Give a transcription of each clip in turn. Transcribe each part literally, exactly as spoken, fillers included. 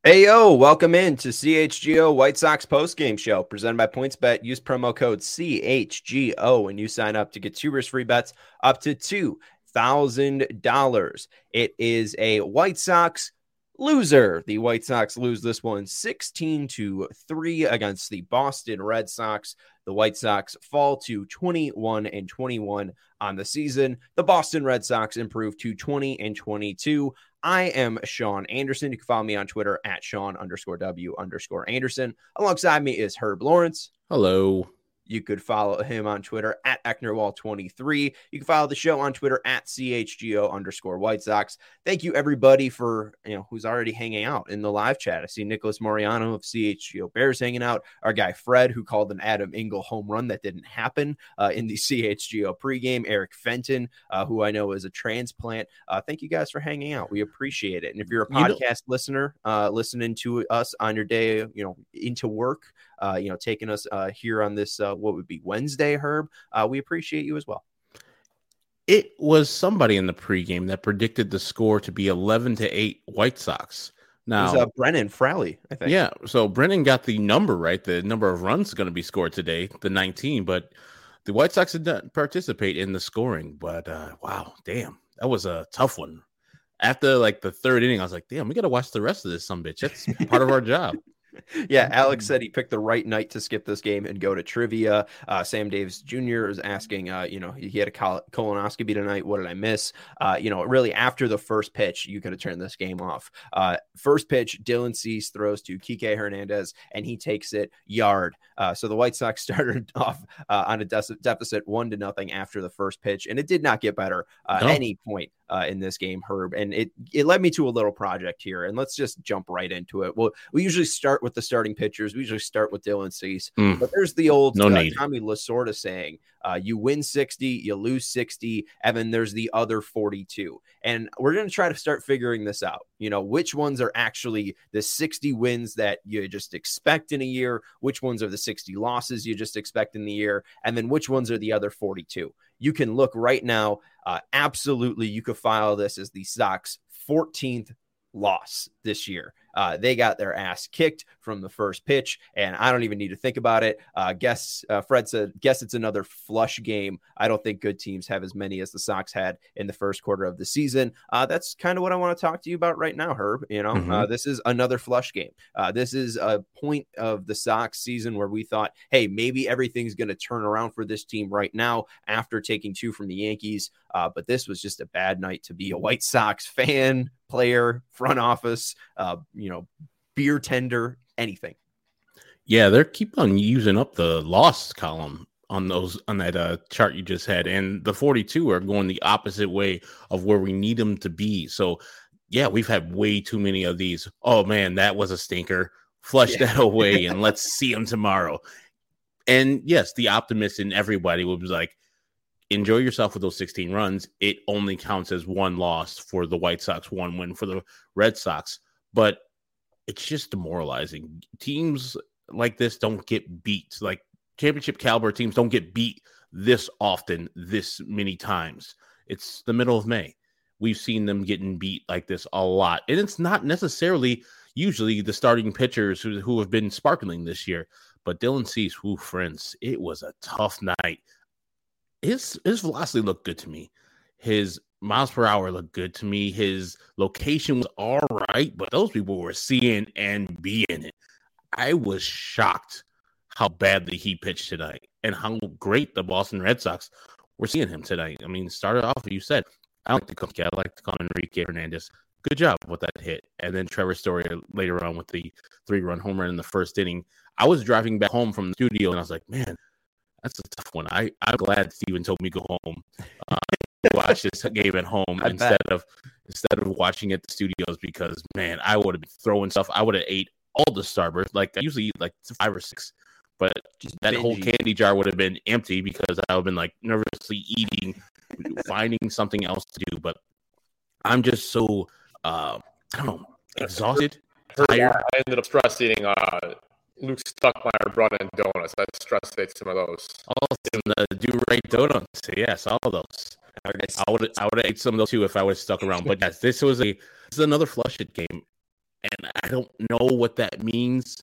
Hey yo, welcome in to C H G O White Sox postgame show presented by PointsBet. Use promo code C H G O when you sign up to get two risk-free bets up to two thousand dollars. It is a White Sox loser. The White Sox lose this one sixteen to three against the Boston Red Sox. The White Sox fall to twenty-one and twenty-one on the season. The Boston Red Sox improve to twenty and twenty-two. I am Sean Anderson. You can follow me on Twitter at Sean underscore W underscore Anderson. Alongside me is Herb Lawrence. Hello. You could follow him on Twitter at Ecknerwall twenty-three. You can follow the show on Twitter at C H G O underscore White Sox. Thank you, everybody, for, you know, who's already hanging out in the live chat. I see Nicholas Moriano of C H G O Bears hanging out. Our guy Fred, who called an Adam Engel home run that didn't happen uh, in the C H G O pregame. Eric Fenton, uh, who I know is a transplant. Uh, thank you guys for hanging out. We appreciate it. And if you're a podcast you know- listener, uh, listening to us on your day, you know, into work, Uh, you know, taking us uh, here on this, uh, what would be Wednesday, Herb. Uh, we appreciate you as well. It was somebody in the pregame that predicted the score to be eleven to eight White Sox. Now, it was uh, Brennan Fraley, I think. Yeah, so Brennan got the number right. The number of runs going to be scored today, the nineteen, but the White Sox did not participate in the scoring. But uh, wow, damn, that was a tough one. After like the third inning, I was like, damn, we got to watch the rest of this sumbitch. That's part of our job. Yeah, Alex said he picked the right night to skip this game and go to trivia. Uh, Sam Davis Junior is asking, uh, you know, he had a col- colonoscopy tonight. What did I miss? Uh, you know, really after the first pitch, you could have turned this game off. Uh, first pitch, Dylan Cease throws to Kike Hernandez, and he takes it yard. Uh, so the White Sox started off uh, on a de- deficit one to nothing after the first pitch, and it did not get better uh, no. at any point. Uh, in this game, Herb, and it it led me to a little project here, and let's just jump right into it. Well, we usually start with the starting pitchers. We usually start with Dylan Cease, mm. but there's the old no uh, Tommy Lasorda saying, uh, you win sixty, you lose sixty, and then there's the other forty-two. And we're going to try to start figuring this out. You know, which ones are actually the sixty wins that you just expect in a year, which ones are the sixty losses you just expect in the year, and then which ones are the other forty-two. You can look right now. Uh, absolutely, you could file this as the Sox fourteenth loss this year. Uh, they got their ass kicked from the first pitch, and I don't even need to think about it. Uh, guess uh, Fred said, guess it's another flush game. I don't think good teams have as many as the Sox had in the first quarter of the season. Uh, that's kind of what I want to talk to you about right now, Herb. You know, mm-hmm. uh, this is another flush game. Uh, this is a point of the Sox season where we thought, hey, maybe everything's going to turn around for this team right now after taking two from the Yankees. Uh, but this was just a bad night to be a White Sox fan, player, front office, uh, you know, beer tender, anything. Yeah, they're keep on using up the loss column on those on that uh, chart you just had, and the forty-two are going the opposite way of where we need them to be. So, yeah, we've had way too many of these. Oh man, that was a stinker. Flush yeah. that away, and let's see them tomorrow. And yes, the optimist in everybody was like, enjoy yourself with those sixteen runs. It only counts as one loss for the White Sox, one win for the Red Sox. But it's just demoralizing. Teams like this don't get beat. Like championship caliber teams don't get beat this often, this many times. It's the middle of May. We've seen them getting beat like this a lot. And it's not necessarily usually the starting pitchers who, who have been sparkling this year. But Dylan Cease, who friends, it was a tough night. His his velocity looked good to me. His miles per hour looked good to me. His location was all right, but those people were seeing and being it. I was shocked how badly he pitched tonight and how great the Boston Red Sox were seeing him tonight. I mean, started off, you said, I don't like to call, I like to call Enrique Hernandez. Good job with that hit. And then Trevor Story later on with the three-run home run in the first inning. I was driving back home from the studio, and I was like, man, that's a tough one. I, I'm glad Steven told me to go home uh, to watch this game at home I instead bet. of instead of watching at the studios because, man, I would have been throwing stuff. I would have ate all the Starburst. Like, I usually eat like five or six. But Just that whole candy jar would have been empty because I would have been, like, nervously eating, finding something else to do. But I'm just so, uh, I don't know, exhausted, tired. I ended up stress eating uh, Luke Stuckmeyer brought in donuts. I stress ate some of those. Oh, some uh, do right donuts. Yes, all of those. I would I would have ate some of those too if I would have stuck around. But yes, this was a this is another flush it game. And I don't know what that means,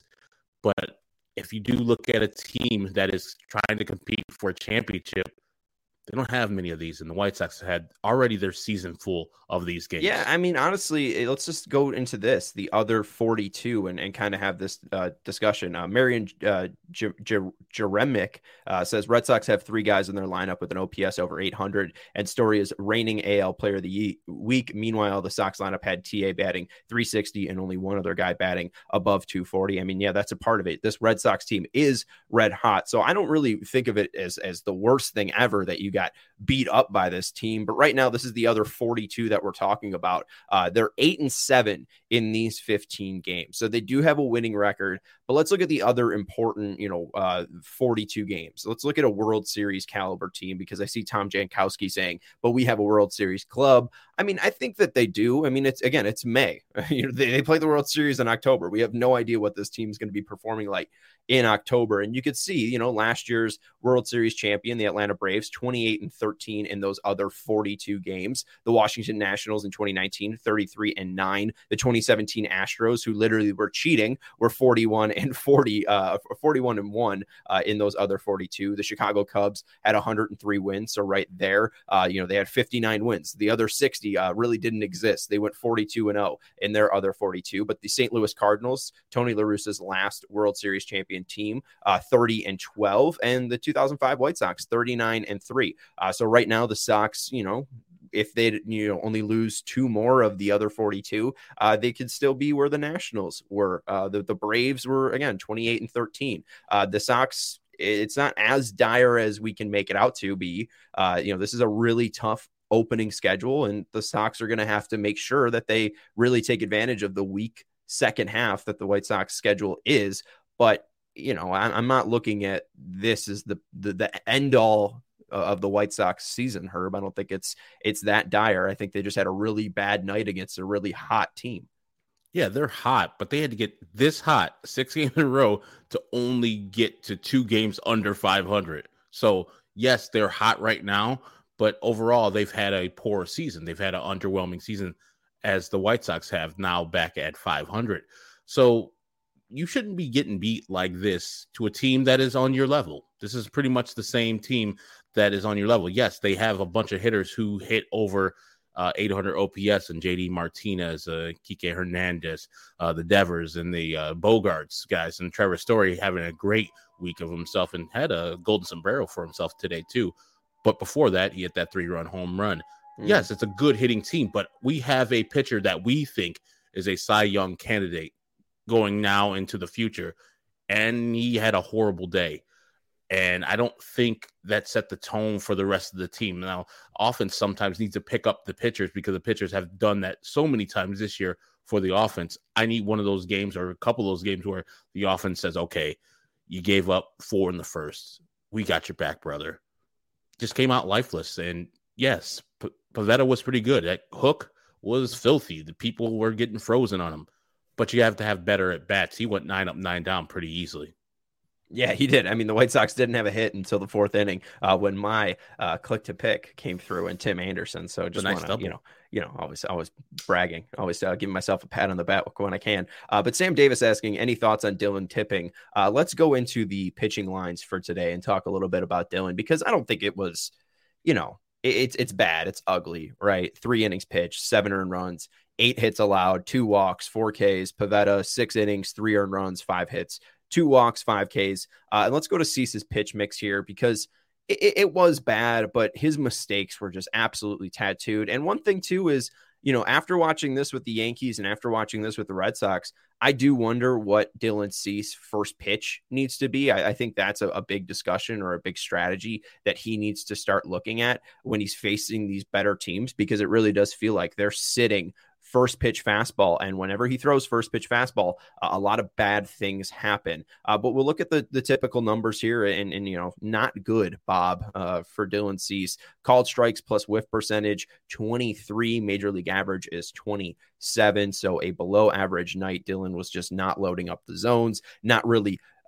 but if you do look at a team that is trying to compete for a championship, they don't have many of these, and the White Sox had already their season full of these games. Yeah, I mean, honestly, let's just go into this, the other forty-two, and, and kind of have this uh, discussion. Uh, Marion uh, J- J- Jeremic uh, says Red Sox have three guys in their lineup with an O P S over eight hundred, and Story is reigning A L Player of the Week. Meanwhile, the Sox lineup had T A batting three sixty and only one other guy batting above two forty. I mean, yeah, that's a part of it. This Red Sox team is red hot, so I don't really think of it as, as the worst thing ever that you got beat up by this team. But right now, this is the other forty-two that we're talking about. Uh, they're eight and seven in these fifteen games, so they do have a winning record. But let's look at the other important, you know, uh, forty-two games. Let's look at a World Series caliber team, because I see Tom Jankowski saying, "But we have a World Series club." I mean, I think that they do. I mean, it's again, it's May. you know, they, they play the World Series in October. We have no idea what this team is going to be performing like in October. And you could see, you know, last year's World Series champion, the Atlanta Braves, twenty-eight and thirteen in those other forty-two games. The Washington Nationals in twenty nineteen, thirty-three and nine. The twenty seventeen Astros, who literally were cheating, were forty-one and forty, uh, forty-one and one uh, in those other forty-two. The Chicago Cubs had one hundred three wins. So right there, uh, you know, they had fifty-nine wins. The other sixty uh, really didn't exist. They went forty-two and oh in their other forty-two. But the Saint Louis Cardinals, Tony La Russa's last World Series champion team, uh, thirty and twelve, and the two thousand five White Sox, thirty-nine and three. Uh, so right now the Sox, you know, if they, you know, only lose two more of the other forty-two, uh, they could still be where the Nationals were. Uh, the, the Braves were, again, twenty-eight and thirteen. Uh, the Sox, it's not as dire as we can make it out to be. Uh, you know, this is a really tough opening schedule, and the Sox are going to have to make sure that they really take advantage of the weak second half that the White Sox schedule is. But, you know, I'm not looking at this as the, the, the end all of the White Sox season, Herb. I don't think it's it's that dire. I think they just had a really bad night against a really hot team. Yeah, they're hot, but they had to get this hot six games in a row to only get to two games under five hundred. So, yes, they're hot right now, but overall, they've had a poor season. They've had an underwhelming season, as the White Sox have now back at five hundred. So, you shouldn't be getting beat like this to a team that is on your level. This is pretty much the same team that is on your level. Yes, they have a bunch of hitters who hit over uh, eight hundred O P S, and J D Martinez, uh, Kike Hernandez, uh, the Devers, and the uh, Bogarts guys, and Trevor Story having a great week of himself and had a golden sombrero for himself today too. But before that, he hit that three-run home run. Mm. Yes, it's a good hitting team, but we have a pitcher that we think is a Cy Young candidate going now into the future, and he had a horrible day. And I don't think that set the tone for the rest of the team. Now, offense sometimes needs to pick up the pitchers, because the pitchers have done that so many times this year for the offense. I need one of those games, or a couple of those games, where the offense says, okay, you gave up four in the first. We got your back, brother. Just came out lifeless. And yes, P- Pivetta was pretty good. That hook was filthy. The people were getting frozen on him. But you have to have better at bats. He went nine up, nine down pretty easily. Yeah, he did. I mean, the White Sox didn't have a hit until the fourth inning uh, when my uh, click to pick came through, and Tim Anderson. So just nice want to, you know, you know, always, always bragging, always uh, giving myself a pat on the back when I can. Uh, but Sam Davis asking, any thoughts on Dylan Tipping? Uh, let's go into the pitching lines for today and talk a little bit about Dylan, because I don't think it was, you know, it, it's it's bad, it's ugly, right? Three innings pitched, seven earned runs, eight hits allowed, two walks, four Ks. Pivetta, six innings, three earned runs, five hits. Two walks, five Ks. Uh, and let's go to Cease's pitch mix here, because it, it was bad, but his mistakes were just absolutely tattooed. And one thing, too, is, you know, after watching this with the Yankees and after watching this with the Red Sox, I do wonder what Dylan Cease first pitch needs to be. I, I think that's a, a big discussion, or a big strategy that he needs to start looking at when he's facing these better teams, because it really does feel like they're sitting first pitch fastball. And whenever he throws first pitch fastball, uh, a lot of bad things happen. Uh, but we'll look at the, the typical numbers here, and, and, you know, not good, Bob, uh, for Dylan Cease. Called strikes plus whiff percentage, twenty-three. Major league average is twenty-seven. So a below average night. Dylan was just not loading up the zones, not really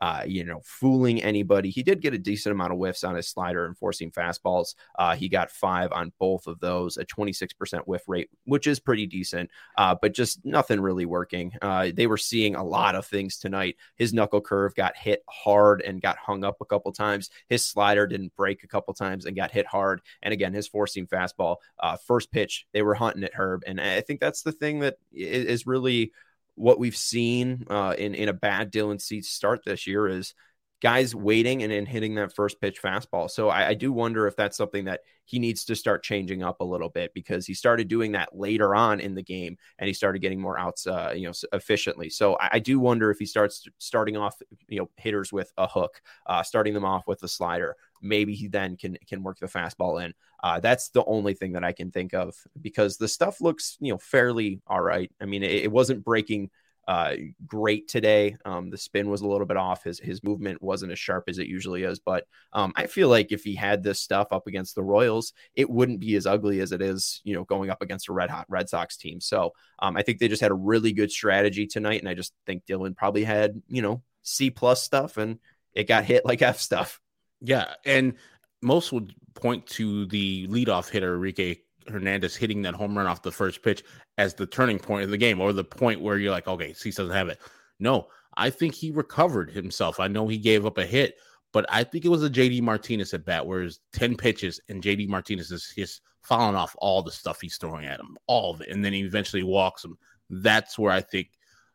uh, you know, fooling anybody. He did get a decent amount of whiffs on his slider and forcing fastballs. Uh, he got five on both of those, a twenty-six percent whiff rate, which is pretty decent, uh, but just nothing really working. Uh, they were seeing a lot of things tonight. His knuckle curve got hit hard and got hung up a couple times. His slider didn't break a couple times and got hit hard. And again, his four-seam fastball, uh, first pitch, they were hunting at Herb. And I think that's the thing that is really what we've seen uh, in, in a bad Dylan Cease start this year is guys waiting and then hitting that first pitch fastball. So I, I do wonder if that's something that he needs to start changing up a little bit, because he started doing that later on in the game and he started getting more outs, uh, you know, efficiently. So I, I do wonder if he starts starting off, you know, hitters with a hook, uh, starting them off with the slider. Maybe he then can can work the fastball in. Uh, that's the only thing that I can think of, because the stuff looks, you know, fairly all right. I mean, it, it wasn't breaking uh, great today. Um, the spin was a little bit off. His his movement wasn't as sharp as it usually is. But um, I feel like if he had this stuff up against the Royals, it wouldn't be as ugly as it is, you know, going up against a red hot Red Sox team. So um, I think they just had a really good strategy tonight, and I just think Dylan probably had, you know, C plus stuff, and it got hit like F stuff. Yeah, and most would point to the leadoff hitter, Enrique Hernandez, hitting that home run off the first pitch as the turning point of the game, or the point where you're like, okay, Cease doesn't have it. No, I think he recovered himself. I know he gave up a hit, but I think it was a J D Martinez at bat where it's ten pitches and J D Martinez is just fouling off all the stuff he's throwing at him, all of it, and then he eventually walks him. That's where I think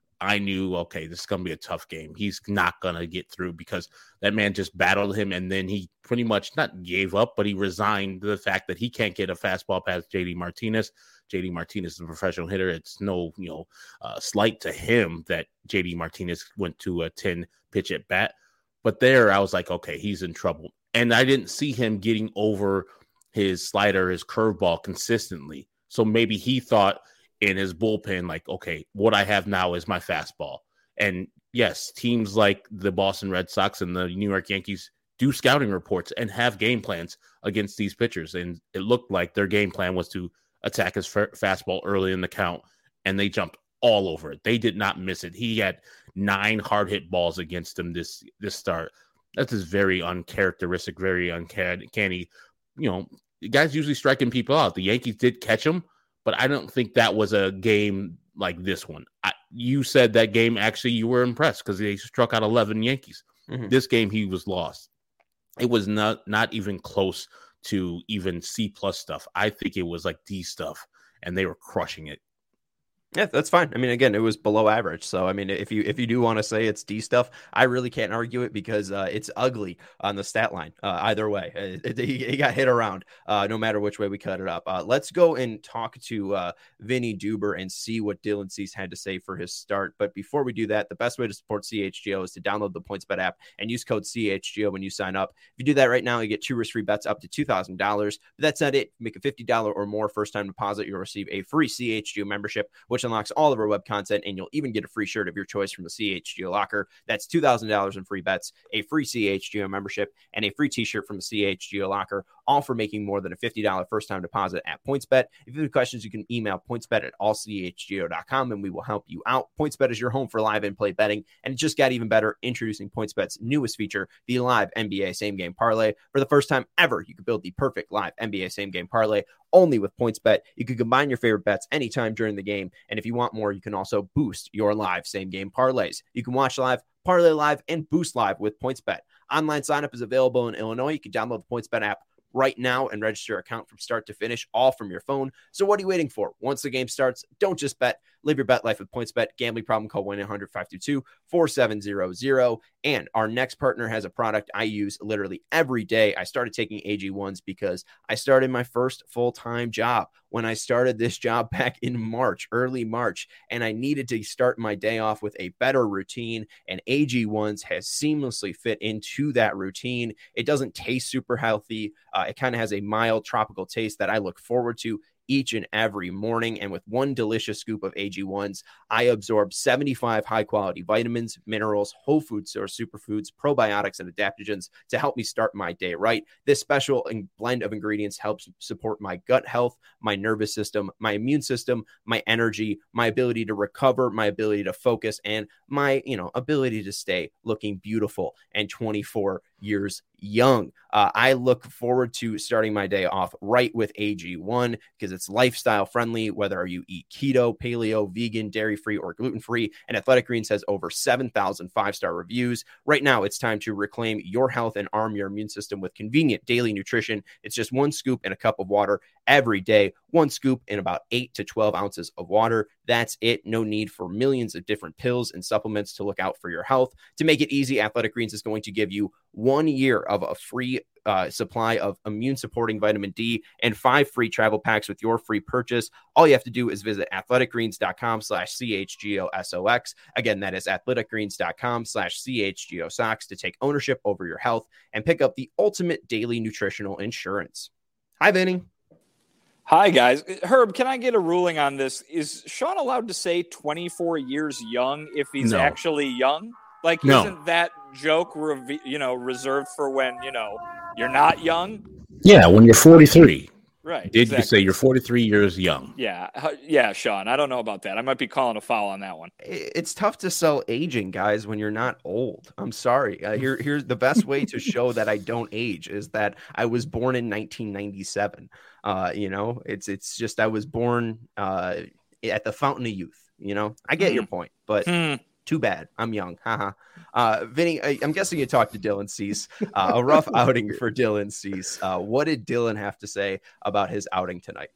I knew, okay, this is going to be a tough game. He's not going to get through, because that man just battled him, and then he pretty much not gave up, but he resigned to the fact that he can't get a fastball past J D Martinez. J D Martinez is a professional hitter. It's no, you know, uh, slight to him that J D Martinez went to a ten pitch at bat. But there I was like, okay, he's in trouble. And I didn't see him getting over his slider, his curveball consistently. So maybe he thought in his bullpen, like, okay, what I have now is my fastball. And yes, teams like the Boston Red Sox and the New York Yankees do scouting reports and have game plans against these pitchers. And it looked like their game plan was to attack his f- fastball early in the count, and they jumped all over it. They did not miss it. He had nine hard hit balls against him this, this start. That's just very uncharacteristic, very uncanny. You know, guys usually striking people out. The Yankees did catch him, but I don't think that was a game like this one. I, you said that game, actually, you were impressed because they struck out eleven Yankees. Mm-hmm. This game, he was lost. It was not, not even close to even C plus stuff. I think it was like D stuff, and they were crushing it. Yeah, that's fine. I mean, again, it was below average. So, I mean, if you if you do want to say it's D stuff, I really can't argue it, because uh, it's ugly on the stat line. Uh, either way, it, it, he got hit around uh, no matter which way we cut it up. Uh, let's go and talk to uh, Vinny Duber and see what Dylan Cease had to say for his start. But before we do that, the best way to support C H G O is to download the PointsBet app and use code C H G O when you sign up. If you do that right now, you get two risk-free bets up to two thousand dollars. But that's not it. Make a fifty dollars or more first-time deposit, you'll receive a free C H G O membership, which unlocks all of our web content, and you'll even get a free shirt of your choice from the C H G O locker. That's two thousand dollars in free bets, a free C H G O membership, and a free t-shirt from the C H G O locker, all for making more than a fifty dollars first-time deposit at PointsBet. If you have questions, you can email pointsbet at all c h g o dot com, and we will help you out. PointsBet is your home for live in-play betting, and it just got even better, introducing PointsBet's newest feature, the live N B A same-game parlay. For the first time ever, you can build the perfect live N B A same-game parlay only with PointsBet. You can combine your favorite bets anytime during the game, and if you want more, you can also boost your live same-game parlays. You can watch live, parlay live, and boost live with PointsBet. Online sign-up is available in Illinois. You can download the PointsBet app right now and register your account from start to finish, all from your phone. So what are you waiting for? Once the game starts, don't just bet. Live your bet life with PointsBet. Gambling problem, call one eight hundred five two two four seven zero zero. And our next partner has a product I use literally every day. I started taking A G ones because I started my first full-time job when I started this job back in March, early March, and I needed to start my day off with a better routine, and A G ones has seamlessly fit into that routine. It doesn't taste super healthy. Uh, it kind of has a mild tropical taste that I look forward to. each and every morning. And with one delicious scoop of A G ones, I absorb seventy-five high-quality vitamins, minerals, whole food source superfoods, probiotics, and adaptogens to help me start my day right. This special blend of ingredients helps support my gut health, my nervous system, my immune system, my energy, my ability to recover, my ability to focus, and my, you know, ability to stay looking beautiful and twenty-four years young. Uh, I look forward to starting my day off right with A G one because it's lifestyle friendly, whether you eat keto, paleo, vegan, dairy-free, or gluten-free. And Athletic Greens has over seven thousand five-star reviews. Right now, it's time to reclaim your health and arm your immune system with convenient daily nutrition. It's just one scoop in a cup of water every day, one scoop in about eight to twelve ounces of water. That's it. No need for millions of different pills and supplements to look out for your health. To make it easy, Athletic Greens is going to give you one year of a free uh, supply of immune supporting vitamin D and five free travel packs with your free purchase. All you have to do is visit athleticgreens.com slash CHGOSOX. Again, that is athleticgreens.com slash CHGOSOX to take ownership over your health and pick up the ultimate daily nutritional insurance. Hi, Vinny. Hi, guys. Herb, can I get a ruling on this? Is Sean allowed to say twenty-four years young if he's No. actually young? Like, No. isn't that joke, rev- you know, reserved for when, you know, you're not young? Yeah, when you're forty-three. Right. Did exactly. you say you're forty-three years young? Yeah. Yeah, Sean. I don't know about that. I might be calling a foul on that one. It's tough to sell aging, guys, when you're not old. I'm sorry. Uh, here, here's the best way to show that I don't age is that I was born in nineteen ninety-seven. Uh, you know, it's it's just I was born uh, at the fountain of youth. You know, I get Hmm. your point, but Hmm. too bad. I'm young. Haha. uh, Vinny, I, I'm guessing you talked to Dylan Cease. Uh, a rough outing for Dylan Cease. Uh, what did Dylan have to say about his outing tonight?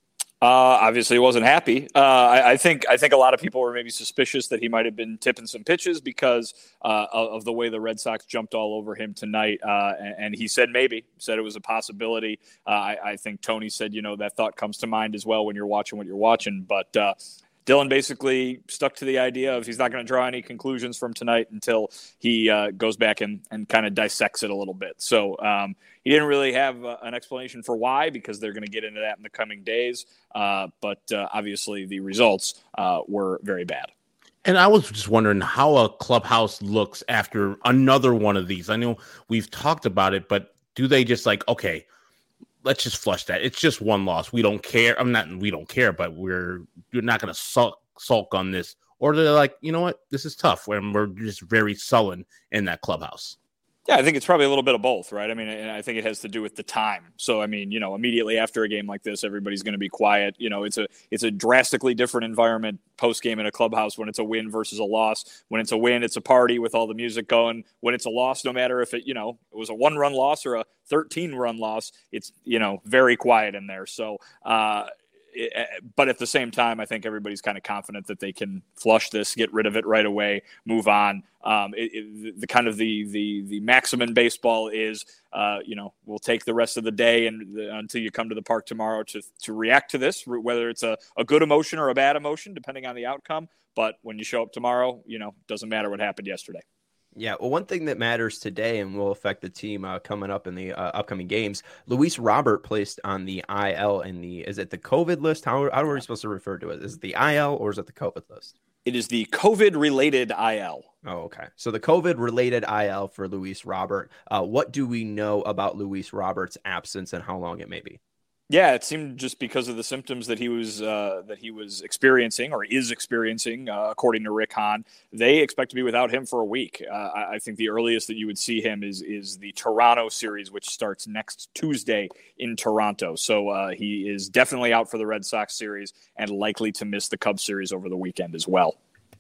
Uh, obviously, he wasn't happy. Uh, I, I think I think a lot of people were maybe suspicious that he might have been tipping some pitches because uh, of, of the way the Red Sox jumped all over him tonight. Uh, and, and he said maybe, said it was a possibility. Uh, I, I think Tony said, you know, that thought comes to mind as well when you're watching what you're watching. But uh, Dylan basically stuck to the idea of he's not going to draw any conclusions from tonight until he uh, goes back and, and kind of dissects it a little bit. So um, he didn't really have uh, an explanation for why, because they're going to get into that in the coming days. Uh, but uh, obviously the results uh, were very bad. And I was just wondering how a clubhouse looks after another one of these. I know we've talked about it, but do they just like, okay, let's just flush that. It's just one loss. We don't care. I'm not, we don't care, but we're, you're not going to sulk, sulk on this. Or they're like, you know what? This is tough. When we're just very sullen in that clubhouse. Yeah, I think it's probably a little bit of both, right? I mean, and I think it has to do with the time. So, I mean, you know, immediately after a game like this, everybody's going to be quiet. You know, it's a it's a drastically different environment post-game in a clubhouse when it's a win versus a loss. When it's a win, it's a party with all the music going. When it's a loss, no matter if it, you know, it was a one-run loss or a thirteen-run loss, it's, you know, very quiet in there. So, uh It, but at the same time, I think everybody's kind of confident that they can flush this, get rid of it right away, move on. Um, it, it, the kind of the the the maximum baseball is, uh, you know, we'll take the rest of the day and the, until you come to the park tomorrow to to react to this, whether it's a, a good emotion or a bad emotion, depending on the outcome. But when you show up tomorrow, you know, doesn't matter what happened yesterday. Yeah, well, one thing that matters today and will affect the team uh, coming up in the uh, upcoming games, Luis Robert placed on the I L in the, is it the COVID list? How, how are we supposed to refer to it? Is it the I L or is it the COVID list? It is the COVID-related I L. Oh, okay. So the COVID-related I L for Luis Robert. Uh, what do we know about Luis Robert's absence and how long it may be? Yeah, it seemed just because of the symptoms that he was uh, that he was experiencing or is experiencing, uh, according to Rick Hahn, they expect to be without him for a week. Uh, I, I think the earliest that you would see him is is the Toronto series, which starts next Tuesday in Toronto. So uh, he is definitely out for the Red Sox series and likely to miss the Cubs series over the weekend as well.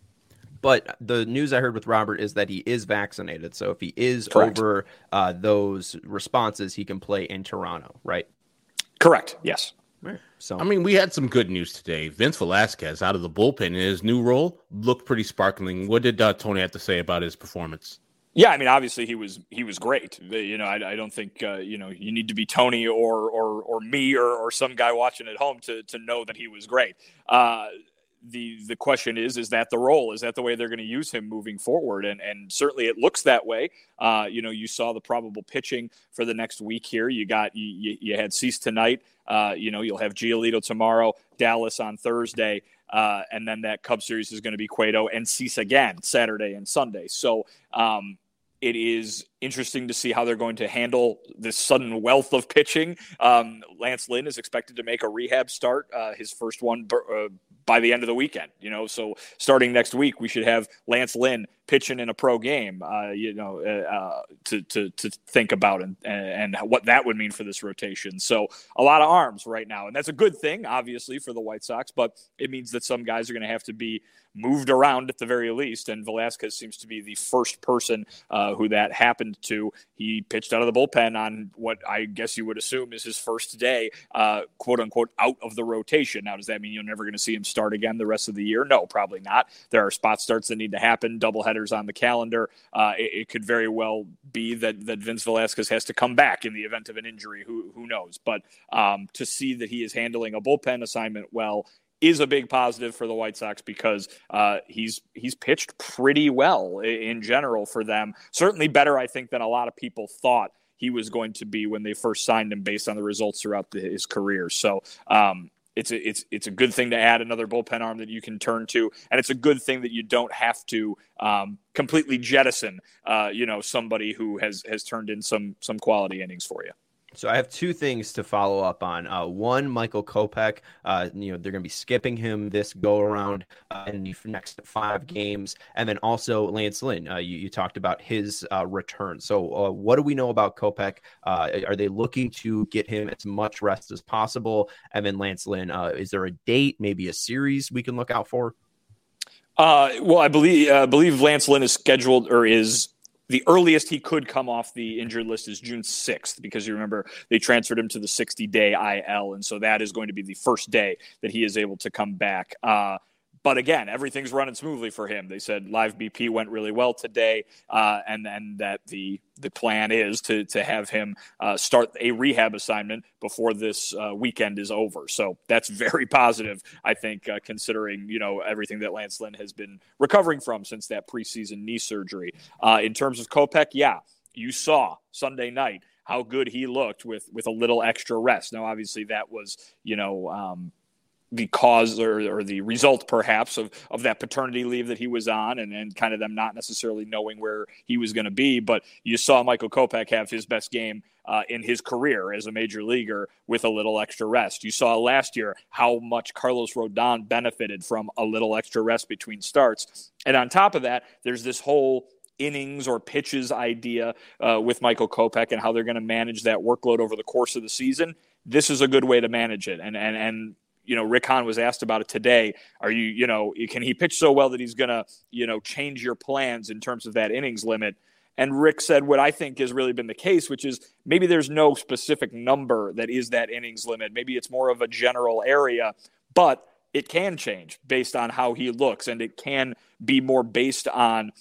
But the news I heard with Robert is that he is vaccinated. So if he is Correct. over uh, those responses, he can play in Toronto, right? Correct. Yes. Right. So I mean, we had some good news today. Vince Velasquez out of the bullpen in his new role looked pretty sparkling. What did uh, Tony have to say about his performance? Yeah, I mean, obviously he was he was great. You know, I, I don't think uh, you know you need to be Tony or or or me or, or some guy watching at home to to know that he was great. Uh, the the question is, is that the role? Is that the way they're going to use him moving forward? And and certainly it looks that way. Uh, you know, you saw the probable pitching for the next week here. You got you you had Cease tonight. Uh, you know, you'll have Giolito tomorrow, Dallas on Thursday, uh, and then that Cubs series is going to be Cueto and Cease again Saturday and Sunday. So um, it is interesting to see how they're going to handle this sudden wealth of pitching. Um, Lance Lynn is expected to make a rehab start, uh, his first one uh, by the end of the weekend. You know, so starting next week, we should have Lance Lynn pitching in a pro game. Uh, you know, uh, to to to think about and and what that would mean for this rotation. So a lot of arms right now, and that's a good thing, obviously, for the White Sox. But it means that some guys are going to have to be moved around at the very least. And Velasquez seems to be the first person uh, who that happened to. He pitched out of the bullpen on what I guess you would assume is his first day, uh, quote unquote, out of the rotation. Now, does that mean you're never going to see him start again the rest of the year? No, probably not. There are spot starts that need to happen, doubleheaders on the calendar. Uh, it, it could very well be that, that Vince Velasquez has to come back in the event of an injury. Who, who knows? But um, to see that he is handling a bullpen assignment well is a big positive for the White Sox because uh, he's he's pitched pretty well in general for them. Certainly better, I think, than a lot of people thought he was going to be when they first signed him based on the results throughout the, his career. So um, it's, a, it's, it's a good thing to add another bullpen arm that you can turn to, and it's a good thing that you don't have to um, completely jettison uh, you know, somebody who has, has turned in some some quality innings for you. So I have two things to follow up on. Uh, one, Michael Kopech, uh, you know, they're going to be skipping him this go around uh, in the next five games. And then also Lance Lynn, uh, you, you talked about his uh, return. So uh, what do we know about Kopech? Uh, are they looking to get him as much rest as possible? And then Lance Lynn, uh, is there a date, maybe a series we can look out for? Uh, well, I believe, uh, believe Lance Lynn is scheduled or is the earliest he could come off the injured list is June sixth, because you remember they transferred him to the sixty-day I L, and so that is going to be the first day that he is able to come back. Uh, but again, everything's running smoothly for him. They said live B P went really well today, uh, and then that the the plan is to to have him uh, start a rehab assignment before this uh, weekend is over. So that's very positive, I think, uh, considering, you know, everything that Lance Lynn has been recovering from since that preseason knee surgery. Uh, in terms of Kopech, yeah, you saw Sunday night how good he looked with with a little extra rest. Now, obviously, that was, you know, um, the cause or, or the result perhaps of, of that paternity leave that he was on and, and kind of them not necessarily knowing where he was going to be. But you saw Michael Kopech have his best game uh, in his career as a major leaguer with a little extra rest. You saw last year how much Carlos Rodon benefited from a little extra rest between starts. And on top of that, there's this whole innings or pitches idea uh, with Michael Kopech and how they're going to manage that workload over the course of the season. This is a good way to manage it. And, and, and, you know, Rick Hahn was asked about it today. Are you, you know, can he pitch so well that he's going to, you know, change your plans in terms of that innings limit? And Rick said what I think has really been the case, which is maybe there's no specific number that is that innings limit. Maybe it's more of a general area, but it can change based on how he looks. And it can be more based on,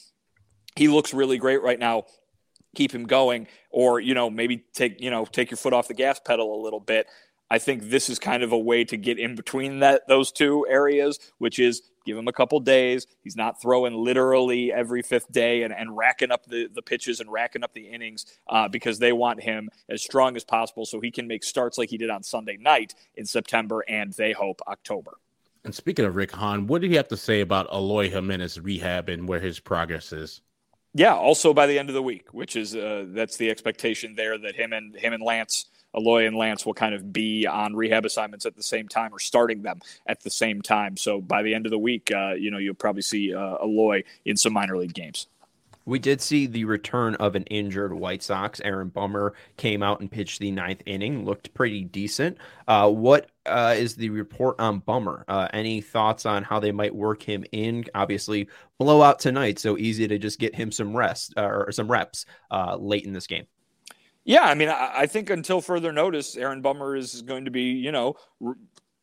he looks really great right now, keep him going, or, you know, maybe take, you know, take your foot off the gas pedal a little bit. I think this is kind of a way to get in between that those two areas, which is give him a couple days. He's not throwing literally every fifth day and, and racking up the, the pitches and racking up the innings uh, because they want him as strong as possible so he can make starts like he did on Sunday night in September and they hope October. And speaking of Rick Hahn, what did he have to say about Eloy Jimenez rehab and where his progress is? Yeah, also by the end of the week, which is uh, that's the expectation there that him and him and Lance Eloy and Lance will kind of be on rehab assignments at the same time or starting them at the same time. So by the end of the week, uh, you know, you'll probably see uh, Eloy in some minor league games. We did see the return of an injured White Sox. Aaron Bummer came out and pitched the ninth inning, looked pretty decent. Uh, what uh, is the report on Bummer? Uh, any thoughts on how they might work him in? Obviously, blowout tonight, so easy to just get him some rest uh, or some reps uh, late in this game. Yeah, I mean, I think until further notice, Aaron Bummer is going to be, you know,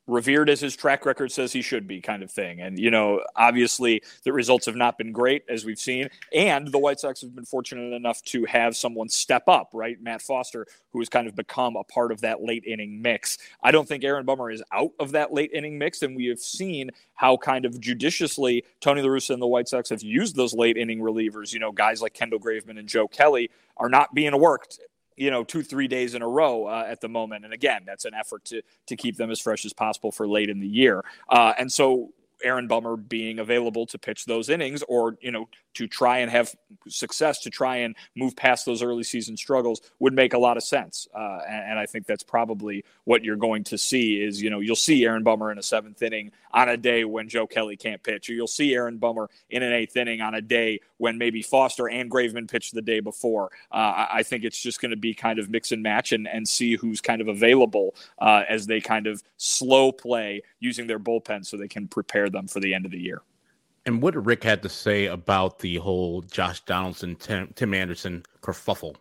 revered as his track record says he should be, kind of thing. And, you know, obviously the results have not been great, as we've seen. And the White Sox have been fortunate enough to have someone step up, right? Matt Foster, who has kind of become a part of that late inning mix. I don't think Aaron Bummer is out of that late inning mix. And we have seen how kind of judiciously Tony La Russa and the White Sox have used those late inning relievers. You know, guys like Kendall Graveman and Joe Kelly are not being worked, you know, two, three days in a row uh, at the moment. And again, that's an effort to to keep them as fresh as possible for late in the year. Uh, and so Aaron Bummer being available to pitch those innings, or, you know, to try and have success, to try and move past those early season struggles, would make a lot of sense. Uh, and, and I think that's probably what you're going to see is, you know, you'll see Aaron Bummer in a seventh inning on a day when Joe Kelly can't pitch, or you'll see Aaron Bummer in an eighth inning on a day when maybe Foster and Graveman pitched the day before. Uh, I think it's just going to be kind of mix and match and, and see who's kind of available uh, as they kind of slow play using their bullpen so they can prepare them for the end of the year. And what Rick had to say about the whole Josh Donaldson, Tim, Tim Anderson kerfuffle?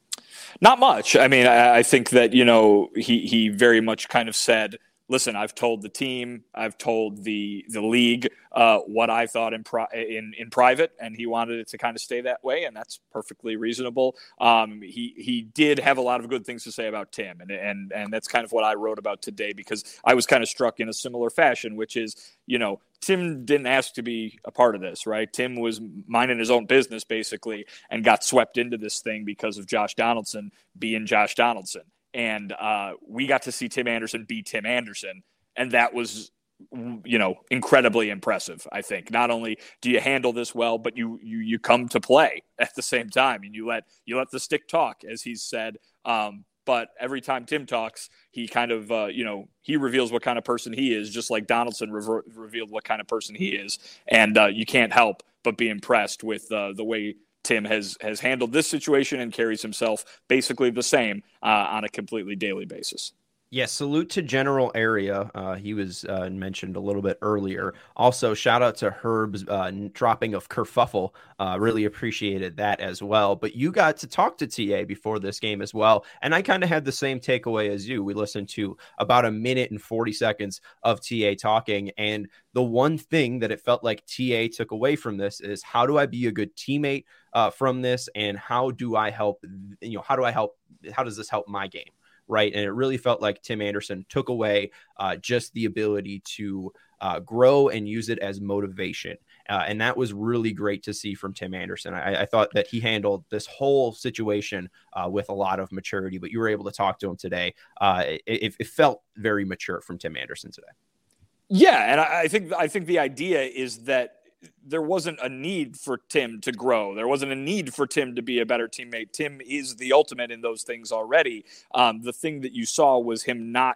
Not much. I mean, I, I think that, you know, he, he very much kind of said, listen, I've told the team, I've told the the league uh, what I thought in, pri- in in private, and he wanted it to kind of stay that way, and that's perfectly reasonable. Um, he he did have a lot of good things to say about Tim, and and and that's kind of what I wrote about today, because I was kind of struck in a similar fashion, which is, you know, Tim didn't ask to be a part of this, right? Tim was minding his own business, basically, and got swept into this thing because of Josh Donaldson being Josh Donaldson. And uh, we got to see Tim Anderson be Tim Anderson, and that was, you know, incredibly impressive. I think not only do you handle this well, but you you you come to play at the same time, and you let you let the stick talk, as he's said. Um, but every time Tim talks, he kind of uh, you know he reveals what kind of person he is, just like Donaldson rever- revealed what kind of person he is, and uh, you can't help but be impressed with uh, the way Tim has has handled this situation and carries himself basically the same uh, on a completely daily basis. Yeah, salute to General Area. Uh, he was uh, mentioned a little bit earlier. Also, shout out to Herb's uh, dropping of kerfuffle. Uh, really appreciated that as well. But you got to talk to T A before this game as well, and I kind of had the same takeaway as you. We listened to about a minute and forty seconds of T A talking, and the one thing that it felt like T A took away from this is, how do I be a good teammate uh, from this, and how do I help? You know, how do I help? How does this help my game? Right. And it really felt like Tim Anderson took away uh, just the ability to uh, grow and use it as motivation. Uh, and that was really great to see from Tim Anderson. I, I thought that he handled this whole situation uh, with a lot of maturity, but you were able to talk to him today. Uh, it, it felt very mature from Tim Anderson today. Yeah. And I think I think the idea is that there wasn't a need for Tim to grow. There wasn't a need for Tim to be a better teammate. Tim is the ultimate in those things already. Um, the thing that you saw was him not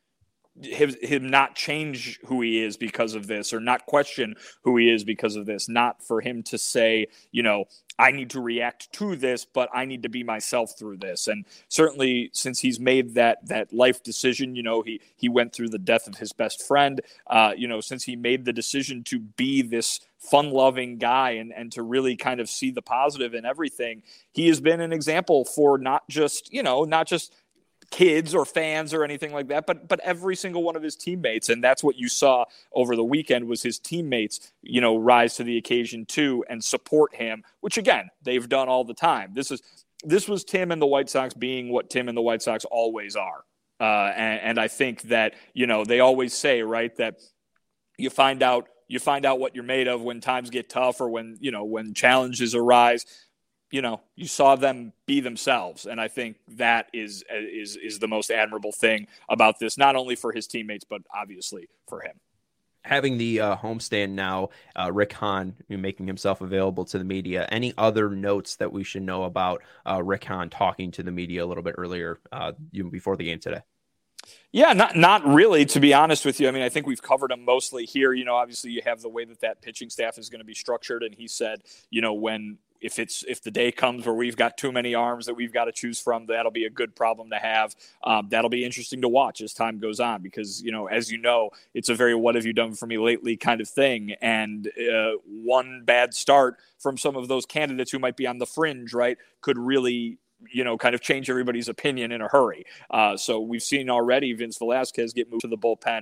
him, him not change who he is because of this, or not question who he is because of this. Not for him to say, you know, I need to react to this, but I need to be myself through this. And certainly since he's made that that life decision, you know, he he went through the death of his best friend, uh, you know, since he made the decision to be this fun-loving guy and, and to really kind of see the positive in everything, he has been an example for not just, you know, not just kids or fans or anything like that, but but every single one of his teammates. And that's what you saw over the weekend, was his teammates, you know, rise to the occasion too and support him, which again, they've done all the time. This is this was Tim and the White Sox being what Tim and the White Sox always are. Uh, and, and I think that, you know, they always say, right, that you find out you find out what you're made of when times get tough, or when, you know, when challenges arise. You know, you saw them be themselves. And I think that is, is, is the most admirable thing about this, not only for his teammates, but obviously for him. Having the uh, homestand now, uh, Rick Hahn making himself available to the media. Any other notes that we should know about uh, Rick Hahn talking to the media a little bit earlier uh, before the game today? Yeah, not not really, to be honest with you. I mean, I think we've covered them mostly here. You know, obviously you have the way that that pitching staff is going to be structured. And he said, you know, when if it's if the day comes where we've got too many arms that we've got to choose from, that'll be a good problem to have. Um, that'll be interesting to watch as time goes on, because, you know, as you know, it's a very what have you done for me lately kind of thing. And uh, one bad start from some of those candidates who might be on the fringe, right, could really, you know, kind of change everybody's opinion in a hurry. Uh, so we've seen already Vince Velasquez get moved to the bullpen.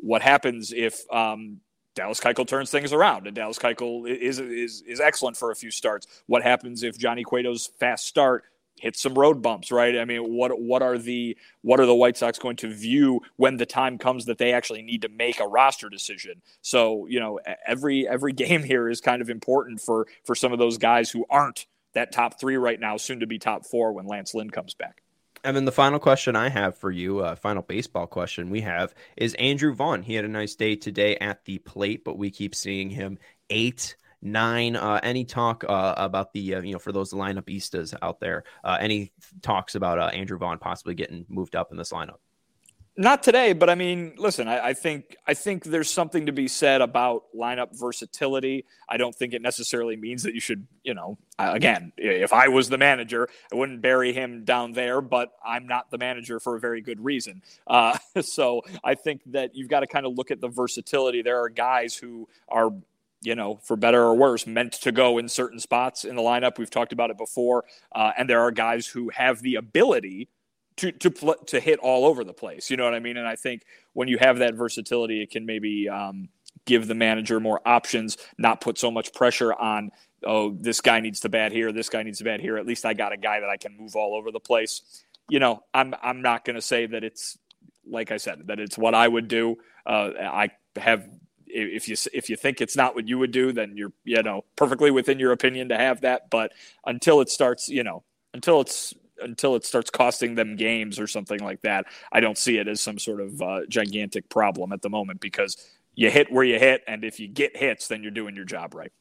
what happens if um, Dallas Keuchel turns things around, and Dallas Keuchel is is is excellent for a few starts. What happens if Johnny Cueto's fast start hits some road bumps, right? I mean, what what are the what are the White Sox going to view when the time comes that they actually need to make a roster decision? So, you know, every every game here is kind of important for for some of those guys who aren't that top three right now, soon to be top four when Lance Lynn comes back. And then the final question I have for you, uh, final baseball question we have, is Andrew Vaughn. He had a nice day today at the plate, but we keep seeing him eight, nine. Uh, any talk uh, about the, uh, you know, for those lineupistas out there, uh, any talks about uh, Andrew Vaughn possibly getting moved up in this lineup? Not today, but I mean, listen, I, I think I think there's something to be said about lineup versatility. I don't think it necessarily means that you should, you know, again, if I was the manager, I wouldn't bury him down there, but I'm not the manager for a very good reason. Uh, so I think that you've got to kind of look at the versatility. There are guys who are, you know, for better or worse, meant to go in certain spots in the lineup. We've talked about it before. Uh, and there are guys who have the ability to to pl- to hit all over the place. You know what I mean? And I think when you have that versatility, it can maybe um, give the manager more options, not put so much pressure on, oh, this guy needs to bat here, this guy needs to bat here. At least I got a guy that I can move all over the place. You know, I'm I'm not going to say that it's, like I said, that it's what I would do. Uh, I have, if you if you think it's not what you would do, then you're, you know, perfectly within your opinion to have that. But until it starts, you know, until it's until it starts costing them games or something like that, I don't see it as some sort of uh, gigantic problem at the moment, because you hit where you hit, and if you get hits, then you're doing your job right.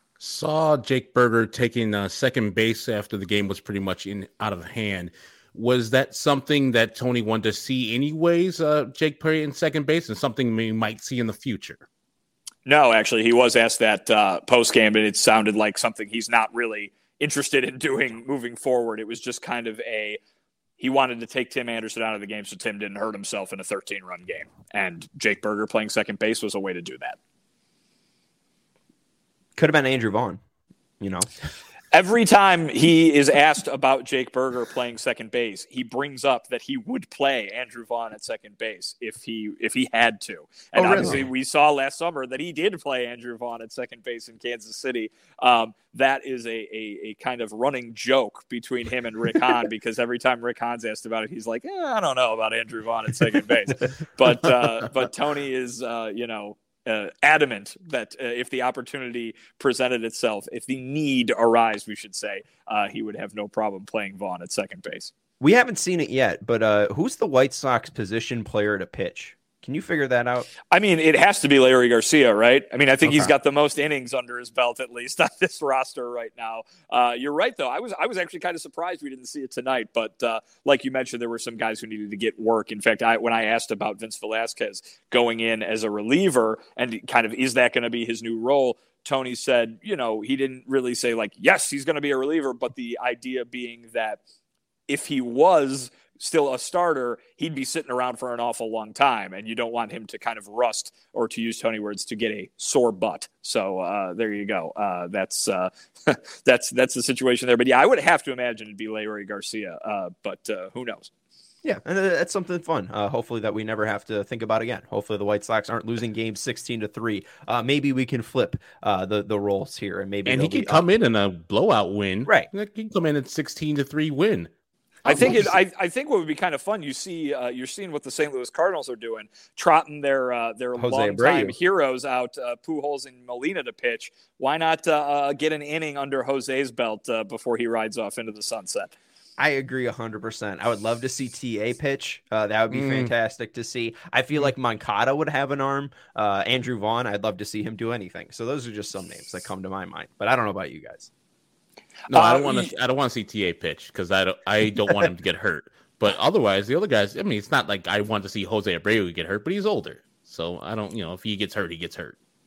Saw Jake Burger taking uh, second base after the game was pretty much in out of hand. Was that something that Tony wanted to see anyways, uh, Jake Perry in second base, and something we might see in the future? No, actually, he was asked that uh, post-game, and it sounded like something he's not really interested in doing moving forward. It was just kind of a, he wanted to take Tim Anderson out of the game so Tim didn't hurt himself in a thirteen-run game. And Jake Burger playing second base was a way to do that. Could have been Andrew Vaughn, you know. Every time he is asked about Jake Burger playing second base, he brings up that he would play Andrew Vaughn at second base if he if he had to. And oh, obviously really? We saw last summer that he did play Andrew Vaughn at second base in Kansas City. Um, that is a, a a kind of running joke between him and Rick Hahn, because every time Rick Hahn's asked about it, he's like, eh, I don't know about Andrew Vaughn at second base. But uh, but Tony is, uh, you know, Uh, adamant that uh, if the opportunity presented itself, if the need arise, we should say, uh, he would have no problem playing Vaughn at second base. We haven't seen it yet, but uh, who's the White Sox position player to pitch? Can you figure that out? I mean, it has to be Larry Garcia, right? I mean, I think Okay. he's got the most innings under his belt, at least on this roster right now. Uh, you're right, though. I was I was actually kind of surprised we didn't see it tonight. But uh, like you mentioned, there were some guys who needed to get work. In fact, I, when I asked about Vince Velasquez going in as a reliever and kind of is that going to be his new role, Tony said, you know, he didn't really say like, yes, he's going to be a reliever, but the idea being that if he was still a starter, he'd be sitting around for an awful long time, and you don't want him to kind of rust, or to use Tony words, to get a sore butt. So uh, there you go. Uh, that's uh, that's that's the situation there. But yeah, I would have to imagine it'd be Larry Garcia, uh, but uh, who knows? Yeah, and that's something fun. Uh, hopefully that we never have to think about again. Hopefully the White Sox aren't losing games sixteen to three. Uh, maybe we can flip uh, the the roles here, and maybe and he can come up. in in a blowout win. Right, he can come in at sixteen to three win. I think it. I, I think what would be kind of fun. You see, uh, you're seeing what the Saint Louis Cardinals are doing, trotting their uh, their longtime heroes out, uh, Pujols and Molina to pitch. Why not uh, uh, get an inning under Jose's belt uh, before he rides off into the sunset? I agree one hundred percent. I would love to see T A pitch. Uh, that would be mm. fantastic to see. I feel like Moncada would have an arm. Uh, Andrew Vaughn, I'd love to see him do anything. So those are just some names that come to my mind. But I don't know about you guys. No, I don't want to. I don't want to see T A pitch because I don't. I don't want him to get hurt. But otherwise, the other guys. I mean, it's not like I want to see Jose Abreu get hurt, but he's older, so I don't. You know, if he gets hurt, he gets hurt.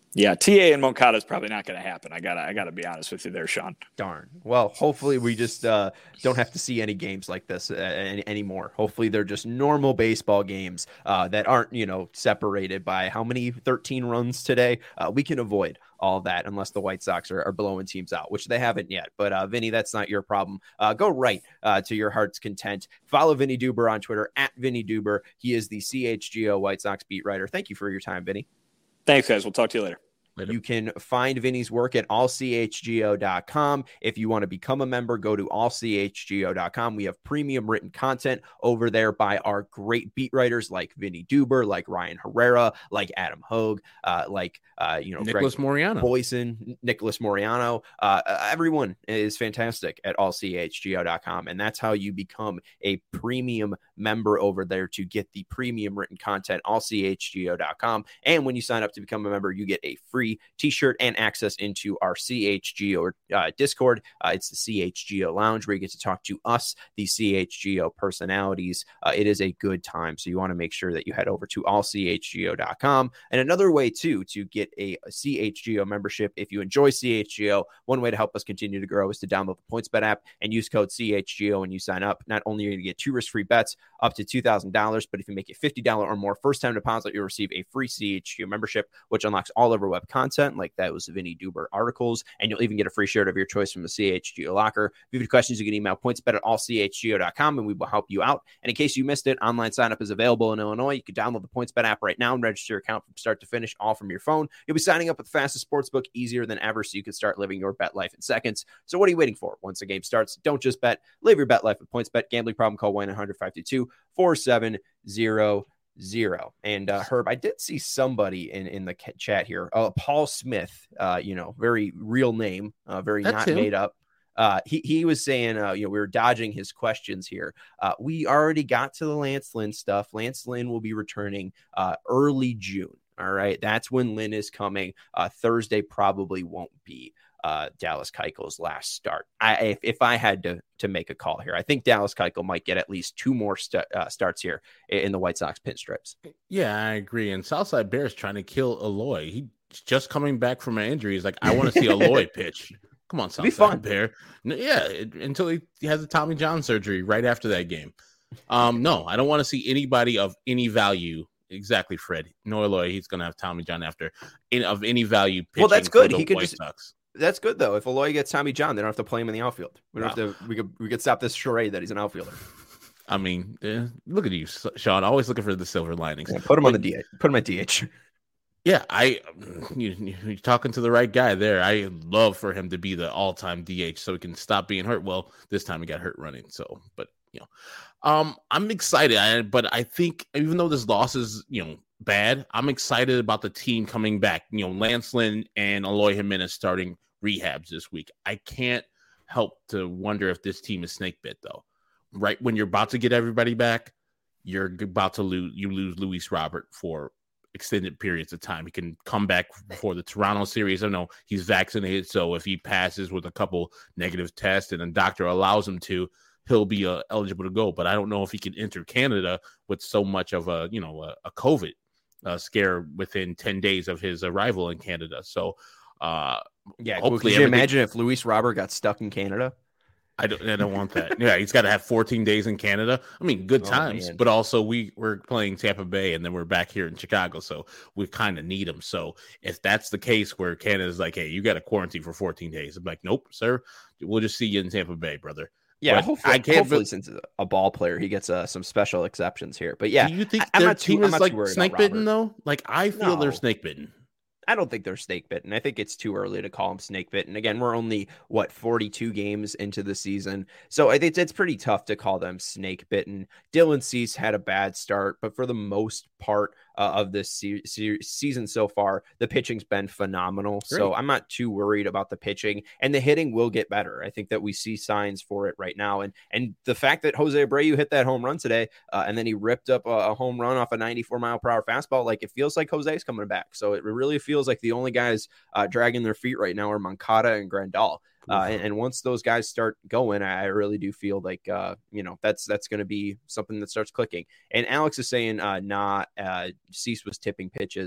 Yeah, T A and Moncada is probably not going to happen. I gotta, I gotta be honest with you there, Sean. Darn. Well, hopefully we just uh, don't have to see any games like this uh, any, anymore. Hopefully they're just normal baseball games uh, that aren't, you know, separated by how many thirteen runs today. Uh, we can avoid all that unless the White Sox are, are blowing teams out, which they haven't yet. But uh, Vinny, that's not your problem. Uh, go right uh, to your heart's content. Follow Vinny Duber on Twitter at Vinny Duber. He is the C H G O White Sox beat writer. Thank you for your time, Vinny. Thanks, guys. We'll talk to you later. Later. You can find Vinny's work at all c h g o dot com. If you want to become a member, go to all c h g o dot com. We have premium written content over there by our great beat writers like Vinny Duber, like Ryan Herrera, like Adam Hogue, uh, like uh, you know Nicholas Greg Moriano, Boyson, Nicholas Moriano. Uh, everyone is fantastic at all c h g o dot com, and that's how you become a premium member over there to get the premium written content. all c h g o dot com, and when you sign up to become a member, you get a free t-shirt and access into our C H G O uh, Discord. Uh, it's the C H G O Lounge where you get to talk to us, the C H G O personalities. Uh, it is a good time, so you want to make sure that you head over to all c h g o dot com. And another way, too, to get a, a C H G O membership, if you enjoy C H G O, one way to help us continue to grow is to download the PointsBet app and use code C H G O when you sign up. Not only are you going to get two risk-free bets up to two thousand dollars, but if you make a fifty dollars or more first-time deposit, you'll receive a free C H G O membership, which unlocks all of our web content, like that was Vinny Duber articles, and you'll even get a free shirt of your choice from the C H G O locker. If you have any questions, you can email pointsbet at all c h g o dot com, and we will help you out. And in case you missed it, online sign up is available in Illinois. You can download the PointsBet app right now and register your account from start to finish, all from your phone. You'll be signing up with the fastest sportsbook, easier than ever, so you can start living your bet life in seconds. So what are you waiting for? Once the game starts, don't just bet. Live your bet life with PointsBet. Gambling problem? Call one eight hundred five two two four seven zero zero. And uh, Herb, I did see somebody in, in the chat here. Uh, Paul Smith, uh, you know, very real name, uh, very That's not him. made up. Uh, he, he was saying, uh, you know, we were dodging his questions here. Uh, we already got to the Lance Lynn stuff. Lance Lynn will be returning uh, early June. All right. That's when Lynn is coming. Uh, Thursday probably won't be uh, Dallas Keuchel's last start. I, if, if I had to, to make a call here, I think Dallas Keuchel might get at least two more st- uh, starts here in the White Sox pinstripes. Yeah, I agree. And Southside Bears trying to kill Eloy. He's just coming back from an injury. He's like, I want to see Eloy pitch. Come on, Southside Bear. Yeah, it, until he, he has a Tommy John surgery right after that game. Um, no, I don't want to see anybody of any value. Exactly, Fred. No Eloy. He's going to have Tommy John after in, of any value. Well, that's good. He could White just. Sox. That's good though. If Eloy gets Tommy John, they don't have to play him in the outfield. We don't wow. have to. We could. We could stop this charade that he's an outfielder. I mean, eh, look at you, Sean. Always looking for the silver linings. Yeah, put him but, on the D H. Put him at D H. Yeah, I. You, you're talking to the right guy there. I love for him to be the all-time D H so he can stop being hurt. Well, this time he got hurt running. So, but you know, um, I'm excited. I, but I think even though this loss is, you know, bad, I'm excited about the team coming back. You know, Lance Lynn and Eloy Jimenez starting rehabs this week. I can't help to wonder if this team is snake bit though. Right when you're about to get everybody back, you're about to lose. You lose Luis Robert for extended periods of time. He can come back for the Toronto series. I know he's vaccinated, so if he passes with a couple negative tests and a doctor allows him to, he'll be uh, eligible to go. But I don't know if he can enter Canada with so much of a, you know, a, a COVID uh, scare within ten days of his arrival in Canada. So, uh, yeah, could you imagine if Luis Robert got stuck in Canada? I don't, I don't want that. Yeah, he's got to have fourteen days in Canada. I mean, good times, oh, but also we, we're playing Tampa Bay and then we're back here in Chicago, so we kind of need him. So if that's the case where Canada's like, hey, you got to quarantine for fourteen days, I'm like, nope, sir, we'll just see you in Tampa Bay, brother. Yeah, but hopefully, I can't hopefully be- since a ball player, he gets uh, some special exceptions here. But yeah, do you think I, their I'm not too, team I'm is not like too snake bitten though? Like I feel No. they're snake bitten. I don't think they're snake bitten. I think it's too early to call them snake bitten. Again, we're only what forty-two games into the season, so I think it's pretty tough to call them snake bitten. Dylan Cease had a bad start, but for the most part uh, of this se- se- season so far, the pitching's been phenomenal. Great. So I'm not too worried about the pitching, and the hitting will get better. I think that we see signs for it right now, and and the fact that Jose Abreu hit that home run today, uh, and then he ripped up a, a home run off a ninety-four mile per hour fastball, like it feels like Jose's coming back. So it really feels like the only guys uh, dragging their feet right now are Moncada and Grandal. Uh, and, and once those guys start going, I really do feel like, uh, you know, that's that's going to be something that starts clicking. And Alex is saying, uh, nah, uh, Cease was tipping pitches.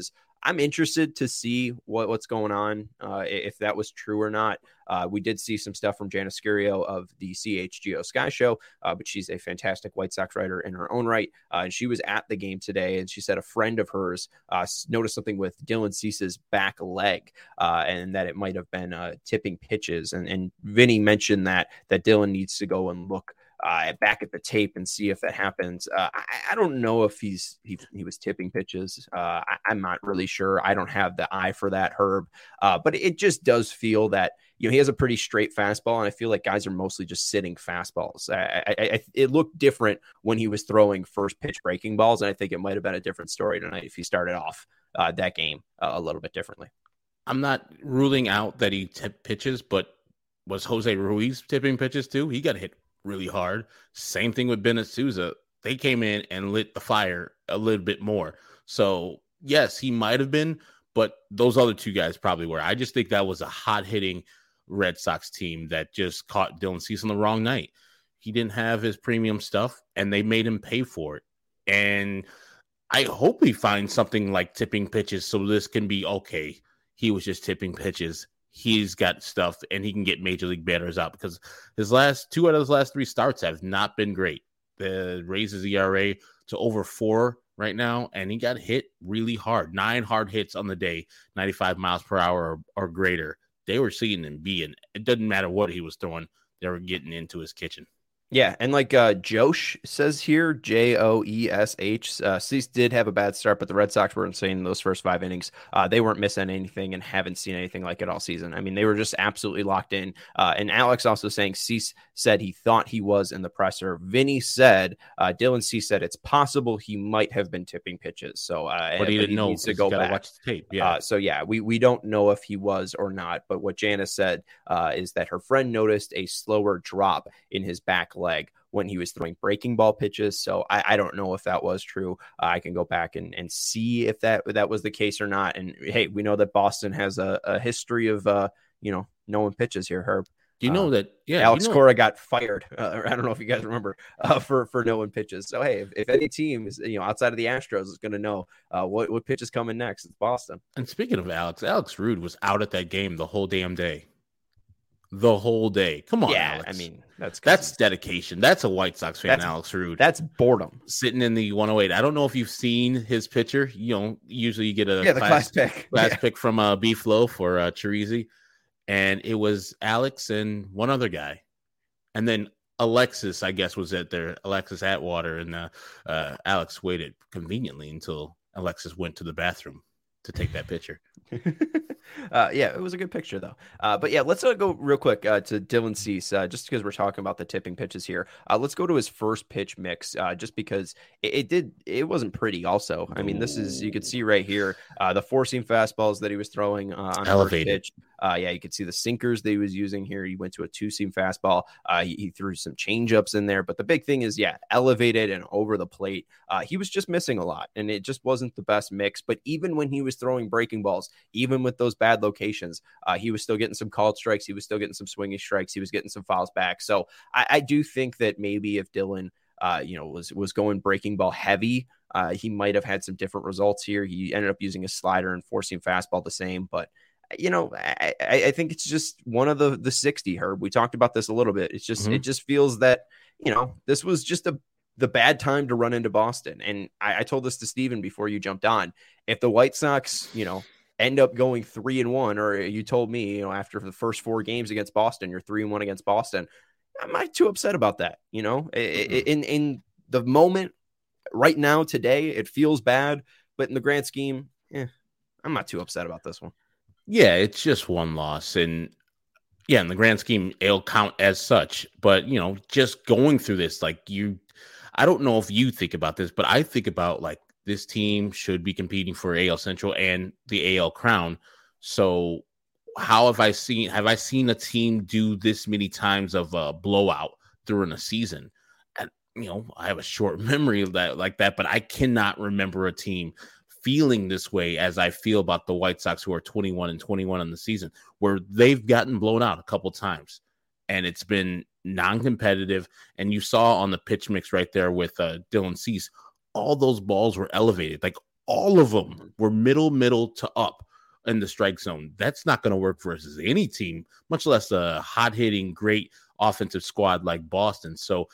I'm interested to see what, what's going on, uh, if that was true or not. Uh, we did see some stuff from Janice Scurio of the C H G O Sky Show, uh, but she's a fantastic White Sox writer in her own right. Uh, and she was at the game today, and she said a friend of hers uh, noticed something with Dylan Cease's back leg, uh, and that it might have been uh, tipping pitches. And, and Vinny mentioned that that Dylan needs to go and look Uh, back at the tape and see if that happens. Uh, I, I don't know if he's he, he was tipping pitches. Uh, I, I'm not really sure. I don't have the eye for that, Herb. Uh, but it just does feel that, you know, he has a pretty straight fastball, and I feel like guys are mostly just sitting fastballs. I, I, I, it looked different when he was throwing first pitch breaking balls, and I think it might have been a different story tonight if he started off uh, that game uh, a little bit differently. I'm not ruling out that he tipped pitches, but was Jose Ruiz tipping pitches too? He got hit really hard. Same thing with Bennett Sousa. They came in and lit the fire a little bit more. So yes, he might have been, but those other two guys probably were. I just think that was a hot hitting Red Sox team that just caught Dylan Cease on the wrong night. He didn't have his premium stuff, and they made him pay for it. And I hope he finds something like tipping pitches so this can be okay. He was just tipping pitches. He's got stuff, and he can get major league batters out, because his last two out of his last three starts have not been great. The raises E R A to over four right now, and he got hit really hard. Nine hard hits on the day, ninety-five miles per hour or, or greater. They were seeing him be, and it doesn't matter what he was throwing. They were getting into his kitchen. Yeah, and like uh, Josh says here, J O E S H, uh, Cease did have a bad start, but the Red Sox were insane in those first five innings. Uh, they weren't missing anything and haven't seen anything like it all season. I mean, they were just absolutely locked in. Uh, and Alex also saying Cease said he thought he was in the presser. Vinny said, uh, Dylan Cease said it's possible he might have been tipping pitches. So, uh, but he didn't he know. Needs to go back. Watch the tape. Yeah. Uh, so yeah, we we don't know if he was or not. But what Janice said uh, is that her friend noticed a slower drop in his back leg when he was throwing breaking ball pitches. So I, I don't know if that was true. Uh, I can go back and, and see if that that was the case or not. And hey, we know that Boston has a, a history of, uh, you know, knowing pitches here, Herb. Do you know uh, that? Yeah, Alex you know, Cora got fired. Uh, I don't know if you guys remember uh, for for knowing pitches. So hey, if, if any team is, you know, outside of the Astros is going to know uh, what what pitch is coming next, it's Boston. And speaking of Alex, Alex Rude was out at that game the whole damn day. The whole day. Come on, yeah, Alex. I mean, that's that's dedication. That's a White Sox fan, that's, Alex Rude. That's boredom. Sitting in the one oh eight. I don't know if you've seen his picture. You know, usually you get a yeah, the class, class pick, class yeah. pick from uh, Beef Loaf or uh, Chirizi, and it was Alex and one other guy, and then Alexis, I guess, was at there. Alexis Atwater, and uh, uh, Alex waited conveniently until Alexis went to the bathroom to take that picture. uh, yeah, it was a good picture though. Uh, but yeah, let's uh, go real quick uh, to Dylan Cease, uh, just because we're talking about the tipping pitches here. Uh, let's go to his first pitch mix, uh, just because it, it did. It wasn't pretty. Also, I mean, this is you could see right here uh, the four seam fastballs that he was throwing uh, on elevated. First pitch. Uh, yeah, you could see the sinkers that he was using here. He went to a two seam fastball. Uh, he, he threw some changeups in there, but the big thing is, yeah, elevated and over the plate. Uh, he was just missing a lot, and it just wasn't the best mix. But even when he was throwing breaking balls, even with those bad locations, uh, he was still getting some called strikes. He was still getting some swinging strikes. He was getting some fouls back. So I, I do think that maybe if Dylan, uh, you know, was was going breaking ball heavy, uh, he might have had some different results here. He ended up using a slider and four seam fastball the same, but. You know, I, I think it's just one of the the sixty, Herb. We talked about this a little bit. It's just mm-hmm. it just feels that, you know, this was just a the bad time to run into Boston. And I, I told this to Steven before you jumped on. If the White Sox, you know, end up going three and one, or you told me, you know, after the first four games against Boston, you're three and one against Boston, I'm not too upset about that. You know, mm-hmm. in in the moment right now today, it feels bad, but in the grand scheme, eh, I'm not too upset about this one. Yeah, it's just one loss. And yeah, in the grand scheme, it'll count as such. But, you know, just going through this, like you, I don't know if you think about this, but I think about like this team should be competing for A L Central and the A L crown. So how have I seen, have I seen a team do this many times of a blowout during a season? And, you know, I have a short memory of that like that, but I cannot remember a team feeling this way as I feel about the White Sox, who are twenty-one and twenty-one in the season, where they've gotten blown out a couple times and it's been non-competitive. And you saw on the pitch mix right there with uh, Dylan Cease, all those balls were elevated. Like All of them Mhm. were middle, middle to up in the strike zone. That's not going to work versus any team, much less a hot-hitting, great offensive squad like Boston. So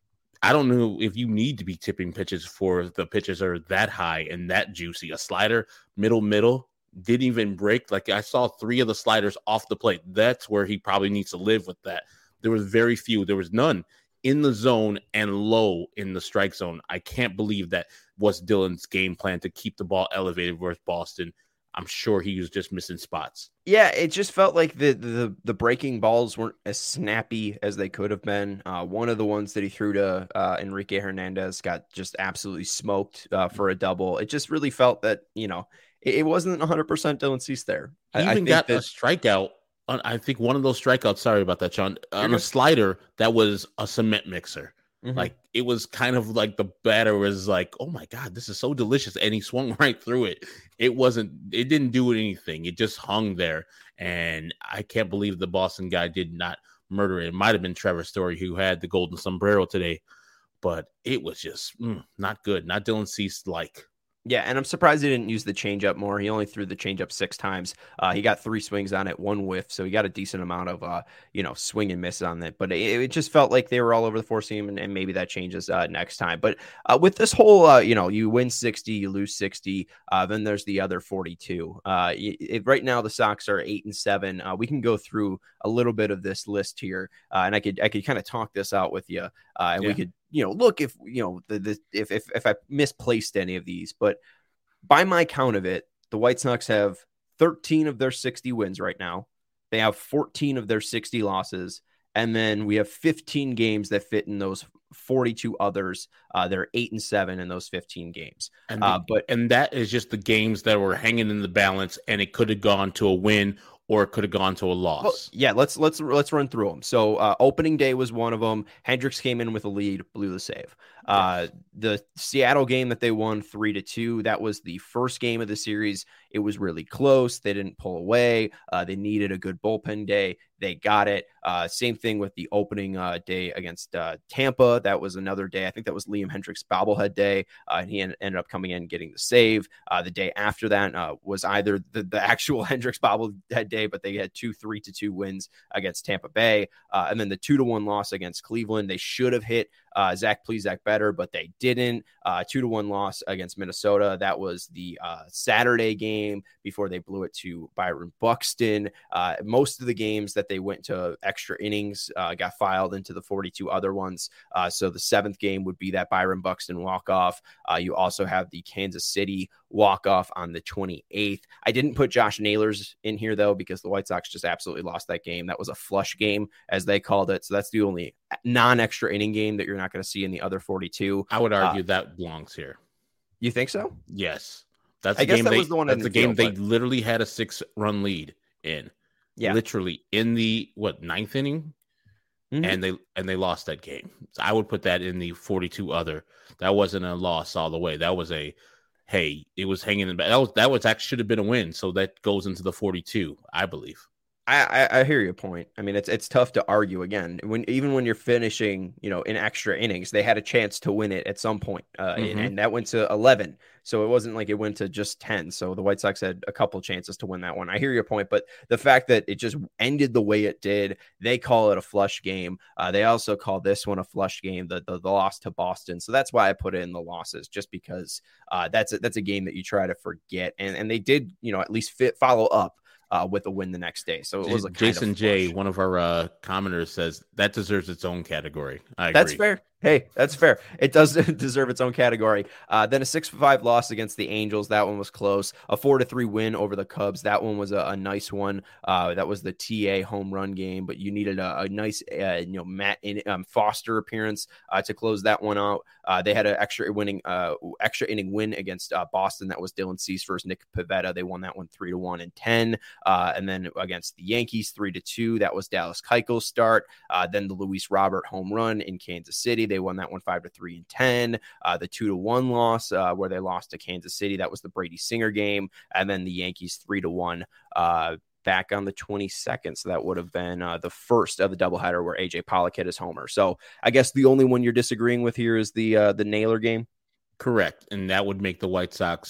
I don't know if you need to be tipping pitches for the pitches are that high and that juicy. A slider, middle, middle, didn't even break. Like I saw three of the sliders off the plate. That's where he probably needs to live with that. There was very few. There was none in the zone and low in the strike zone. I can't believe that was Dylan's game plan to keep the ball elevated versus Boston. I'm sure he was just missing spots. Yeah, it just felt like the the the breaking balls weren't as snappy as they could have been. Uh, one of the ones that he threw to uh, Enrique Hernandez got just absolutely smoked uh, for a double. It just really felt that, you know, it, it wasn't one hundred percent Dylan Cease there. He I, I even think got that, a strikeout. On, I think one of those strikeouts, sorry about that, Sean, on good. a slider that was a cement mixer. Mhm. Like it was kind of like the batter was like, oh my God, this is so delicious. And he swung right through it. It wasn't, it didn't do anything. It just hung there. And I can't believe the Boston guy did not murder it. It might have been Trevor Story who had the golden sombrero today, but it was just mm, not good. Not Dylan Cease like. Yeah, and I'm surprised he didn't use the changeup more. He only threw the changeup six times. Uh, he got three swings on it, one whiff, so he got a decent amount of uh, you know, swing and miss on it. But it, it just felt like they were all over the four seam, and, and maybe that changes uh, next time. But uh, with this whole, uh, you know, you win sixty, you lose sixty, uh, then there's the other forty-two. Uh, it, it, right now the Sox are eight and seven. Uh, we can go through a little bit of this list here, uh, and I could I could kind of talk this out with you, uh, and Yeah. we could, you know, look if you know the, the if if if I misplaced any of these, but by my count of it, the White Sox have thirteen of their sixty wins right now. They have fourteen of their sixty losses. And then we have fifteen games that fit in those forty-two others. Uh, they're eight and seven in those fifteen games. And, Uh, the- but and that is just the games that were hanging in the balance, and it could have gone to a win or it could have gone to a loss. well, yeah, let's let's let's run through them. So uh, opening day was one of them. Hendricks came in with a lead, blew the save. Uh, the Seattle game that they won three to two. That was the first game of the series. It was really close. They didn't pull away. Uh, they needed a good bullpen day. They got it. Uh, same thing with the opening uh, day against uh, Tampa. That was another day. I think that was Liam Hendricks' bobblehead day, uh, and he en- ended up coming in and getting the save. Uh, the day after that uh, was either the, the actual Hendricks bobblehead day, but they had two three to two wins against Tampa Bay, uh, and then the two to one loss against Cleveland. They should have hit uh, Zach Plesac better, but they didn't. Uh, two to one loss against Minnesota. That was the uh, Saturday game before they blew it to Byron Buxton. Uh, most of the games that they went to extra innings uh, got filed into the forty-two other ones. Uh, so the seventh game would be that Byron Buxton walk-off. Uh, you also have the Kansas City walk-off on the twenty-eighth. I didn't put Josh Naylor's in here, though, because the White Sox just absolutely lost that game. That was a flush game, as they called it. So that's the only non-extra inning game that you're not going to see in the other forty-two. I would argue uh, that belongs here. You think so? Yes. That's I the guess game that they, was the one I that's the didn't game feel, they but- literally had a six run lead in. Yeah. Literally in the what ninth inning, Mhm. and they and they lost that game. So I would put that in the forty-two other. That wasn't a loss all the way. That was a hey, it was hanging in. That was that was actually should have been a win. So that goes into the forty-two, I believe. I, I, I hear your point. I mean, it's it's tough to argue again. When even when you're finishing, you know, in extra innings, they had a chance to win it at some point, uh, Mhm. and, and that went to eleven. So it wasn't like it went to just ten. So the White Sox had a couple chances to win that one. I hear your point, but the fact that it just ended the way it did, they call it a flush game. Uh, they also call this one a flush game, the, the the loss to Boston. So that's why I put in the losses, just because uh, that's a, that's a game that you try to forget, and and they did, you know, at least fit follow up. Uh, with a win the next day. So it was a kind Jason of J, flush. one of our uh, commenters, says that deserves its own category. I agree. That's fair. Hey, that's fair. It does deserve its own category. Uh, then a six five loss against the Angels. That one was close. A four to three win over the Cubs. That one was a, a nice one. Uh, that was the T A home run game, but you needed a, a nice, uh, you know, Matt in, um, Foster appearance uh, to close that one out. Uh, they had an extra winning, uh, extra inning win against uh, Boston. That was Dylan Cease versus Nick Pivetta. They won that one three to one and ten. Uh, and then against the Yankees, three to two. That was Dallas Keuchel's start. Uh, then the Luis Robert home run in Kansas City. They won that one five to three and ten. Uh, the two to one loss uh, where they lost to Kansas City. That was the Brady Singer game. And then the Yankees three to one uh, back on the twenty-second. So that would have been uh, the first of the doubleheader where A J Pollock hit his homer. So I guess the only one you're disagreeing with here is the uh, the Naylor game. Correct. And that would make the White Sox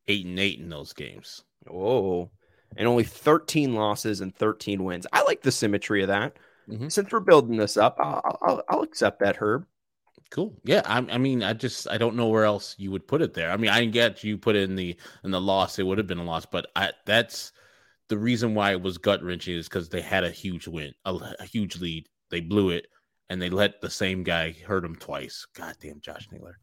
eight and eight in those games. Whoa. And only thirteen losses and thirteen wins. I like the symmetry of that. Mm-hmm. Since we're building this up, I'll, I'll, I'll accept that, Herb. Cool. Yeah. I, I mean, I just, I don't know where else you would put it there. I mean, I get you put it in the, in the loss. It would have been a loss, but I, that's the reason why it was gut wrenching is because they had a huge win, a, a huge lead. They blew it and they let the same guy hurt him twice. Goddamn Josh Naylor.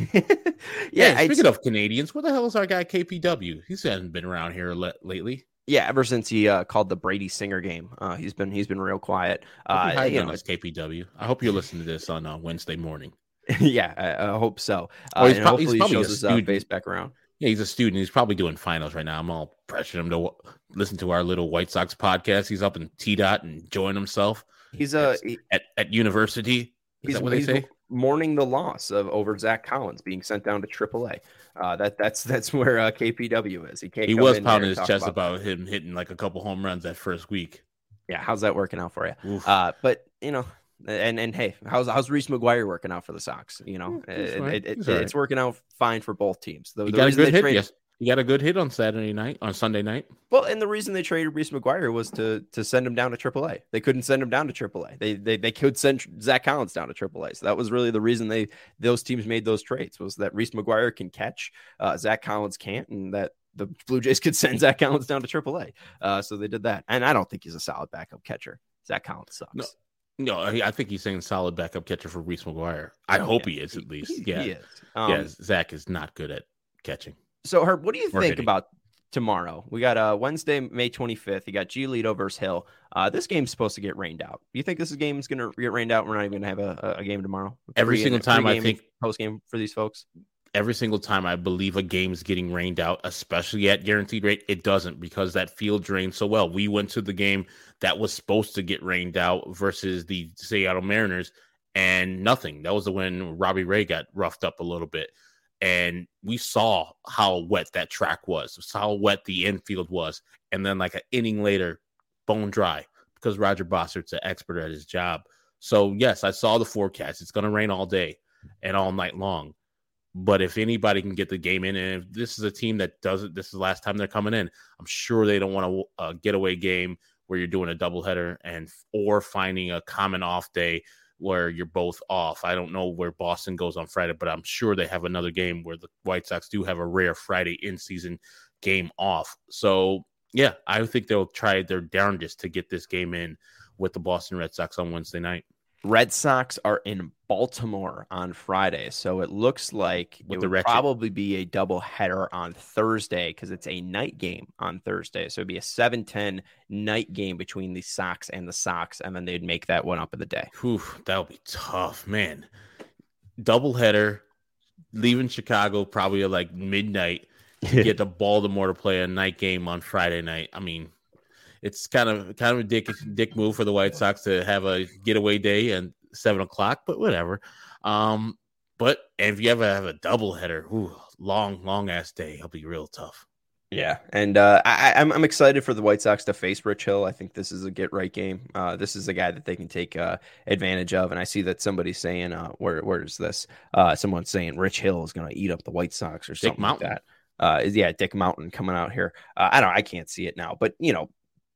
yeah. yeah speaking of Canadians, where the hell is our guy K P W? He hasn't been around here le- lately. Yeah, ever since he uh, called the Brady Singer game, uh, he's been he's been real quiet. Uh, you know, K P W. I hope you listen to this on uh, Wednesday morning. yeah, I, I hope so. Uh, oh, he's, pro- hopefully he's he shows his uh, face back around. Yeah, he's a student. He's probably doing finals right now. I'm all pressuring him to w- listen to our little White Sox podcast. He's up in T DOT and enjoying himself. He's uh, he, at at university. Is he's that what they say? Mourning the loss of over Zach Collins being sent down to triple A. Uh, that that's that's where uh, K P W is. He can't. He was pounding his chest about, about him hitting like a couple home runs that first week. Yeah, how's that working out for you? Uh, but you know, and and hey, how's how's Reese McGuire working out for the Sox? You know, yeah, it, it, it, right. it's working out fine for both teams. The, he the got a good hit. Traded, yes. He got a good hit on Saturday night, on Sunday night. Well, and the reason they traded Reese McGuire was to to send him down to triple A. They couldn't send him down to triple A. They they they could send Zach Collins down to triple A. So that was really the reason they those teams made those trades, was that Reese McGuire can catch, uh, Zach Collins can't, and that the Blue Jays could send Zach Collins down to triple A. Uh, so they did that. And I don't think he's a solid backup catcher. Zach Collins sucks. No. No, I think he's saying solid backup catcher for Reese McGuire. I oh, hope yeah. he is at least. He, yeah, he is. Um, yeah. Zach is not good at catching. So, Herb, what do you or think hitting. about tomorrow? We got uh, Wednesday, May twenty-fifth. You got Giolito versus Hill. Uh, this game's supposed to get rained out. Do you think this game is going to get rained out? We're not even going to have a, a game tomorrow. Every single time, I think post game for these folks. Every single time I believe a game's getting rained out, especially at guaranteed rate, it doesn't, because that field drains so well. We went to the game that was supposed to get rained out versus the Seattle Mariners, and nothing. That was the when Robbie Ray got roughed up a little bit. And we saw how wet that track was, how wet the infield was. And then like an inning later, bone dry, because Roger Bossert's an expert at his job. So, yes, I saw the forecast. It's going to rain all day and all night long. But if anybody can get the game in, and if this is a team that doesn't, this is the last time they're coming in, I'm sure they don't want a, a getaway game where you're doing a doubleheader and or finding a common off day where you're both off. I don't know where Boston goes on Friday, but I'm sure they have another game where the White Sox do have a rare Friday in-season game off. So, yeah, I think they'll try their darndest to get this game in with the Boston Red Sox on Wednesday night. Red Sox are in Baltimore on Friday, so it looks like With it the would wretched. probably be a double header on Thursday, because it's a night game on Thursday. So it'd be a seven ten night game between the Sox and the Sox, and then they'd make that one up in the day. Whew, that would be tough, man. Double header, leaving Chicago probably at like midnight to get to Baltimore to play a night game on Friday night. I mean, it's kind of kind of a dick dick move for the White Sox to have a getaway day at seven o'clock, but whatever. Um, but if you ever have a doubleheader, ooh, long, long ass day, it'll be real tough. Yeah, and uh, I, I'm I'm excited for the White Sox to face Rich Hill. I think this is a get right game. Uh, this is a guy that they can take uh, advantage of, and I see that somebody's saying, uh, "Where where is this?" Uh, someone's saying Rich Hill is going to eat up the White Sox or Dick something Mountain. like that. Uh, yeah, Dick Mountain coming out here. Uh, I don't. I can't see it now, but you know,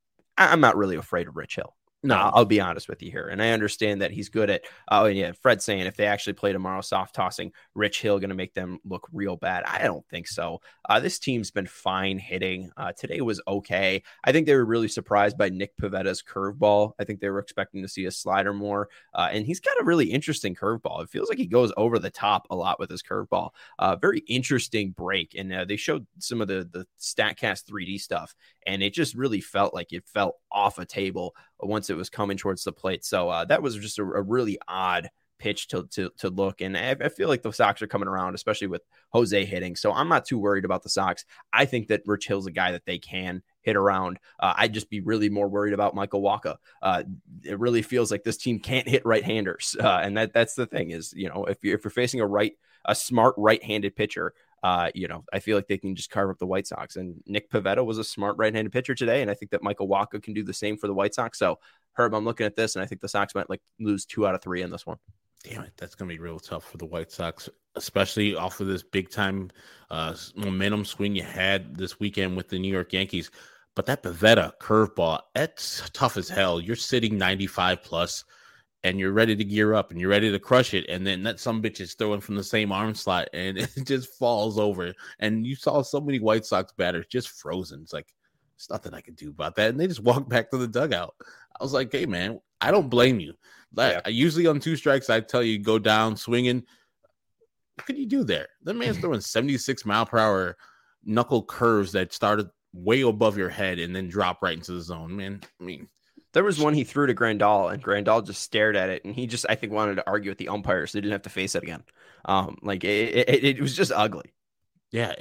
I, I'm not really afraid of Rich Hill. No, I'll, I'll be honest with you here. And I understand that he's good at, oh, and yeah, Fred's saying if they actually play tomorrow, soft tossing, Rich Hill going to make them look real bad. I don't think so. Uh, this team's been fine hitting. Uh, today was okay. I think they were really surprised by Nick Pavetta's curveball. I think they were expecting to see a slider more. Uh, and he's got a really interesting curveball. It feels like he goes over the top a lot with his curveball. Uh, very interesting break. And uh, they showed some of the, the StatCast three D stuff, and it just really felt like it fell off a table once it was coming towards the plate. So uh, that was just a, a really odd pitch to to, to look. And I, I feel like the Sox are coming around, especially with Jose hitting. So I'm not too worried about the Sox. I think that Rich Hill's a guy that they can hit around. Uh, I'd just be really more worried about Michael Wacha. Uh, it really feels like this team can't hit right-handers. Uh, and that that's the thing is, you know, if you're, if you're facing a right, a smart right-handed pitcher, Uh, you know, I feel like they can just carve up the White Sox. And Nick Pivetta was a smart right-handed pitcher today, and I think that Michael Wacha can do the same for the White Sox. So, Herb, I'm looking at this, and I think the Sox might like lose two out of three in this one. Damn it, that's gonna be real tough for the White Sox, especially off of this big time uh, momentum swing you had this weekend with the New York Yankees. But that Pivetta curveball, that's tough as hell. You're sitting ninety-five plus, and you're ready to gear up, and you're ready to crush it, and then that some bitch is throwing from the same arm slot, and it just falls over. And you saw so many White Sox batters just frozen. It's like, there's nothing I can do about that, and they just walked back to the dugout. I was like, hey man, I don't blame you. Like, yeah. Usually on two strikes, I tell you go down swinging. What could you do there? The man's throwing seventy-six mile per hour knuckle curves that started way above your head and then drop right into the zone. Man, I mean, there was one he threw to Grandal, and Grandal just stared at it, and he just, I think, wanted to argue with the umpire, so he didn't have to face it again. Um, like it, it, it was just ugly. Yeah,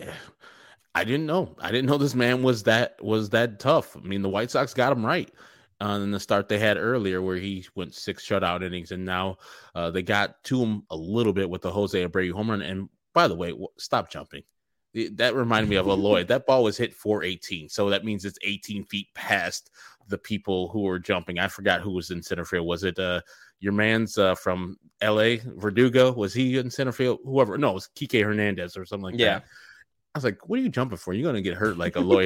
I didn't know. I didn't know this man was that was that tough. I mean, the White Sox got him right. Uh, in the start they had earlier where he went six shutout innings, and now uh, they got to him a little bit with the Jose Abreu home run. And by the way, w- stop jumping. That reminded me of Eloy. That ball was hit four eighteen, so that means it's eighteen feet past the people who were jumping. I forgot who was in center field. Was it uh, your man's uh, from L A, Verdugo? Was he in center field? Whoever. No, it was Kike Hernandez or something like yeah. that. I was like, what are you jumping for? You're going to get hurt like Eloy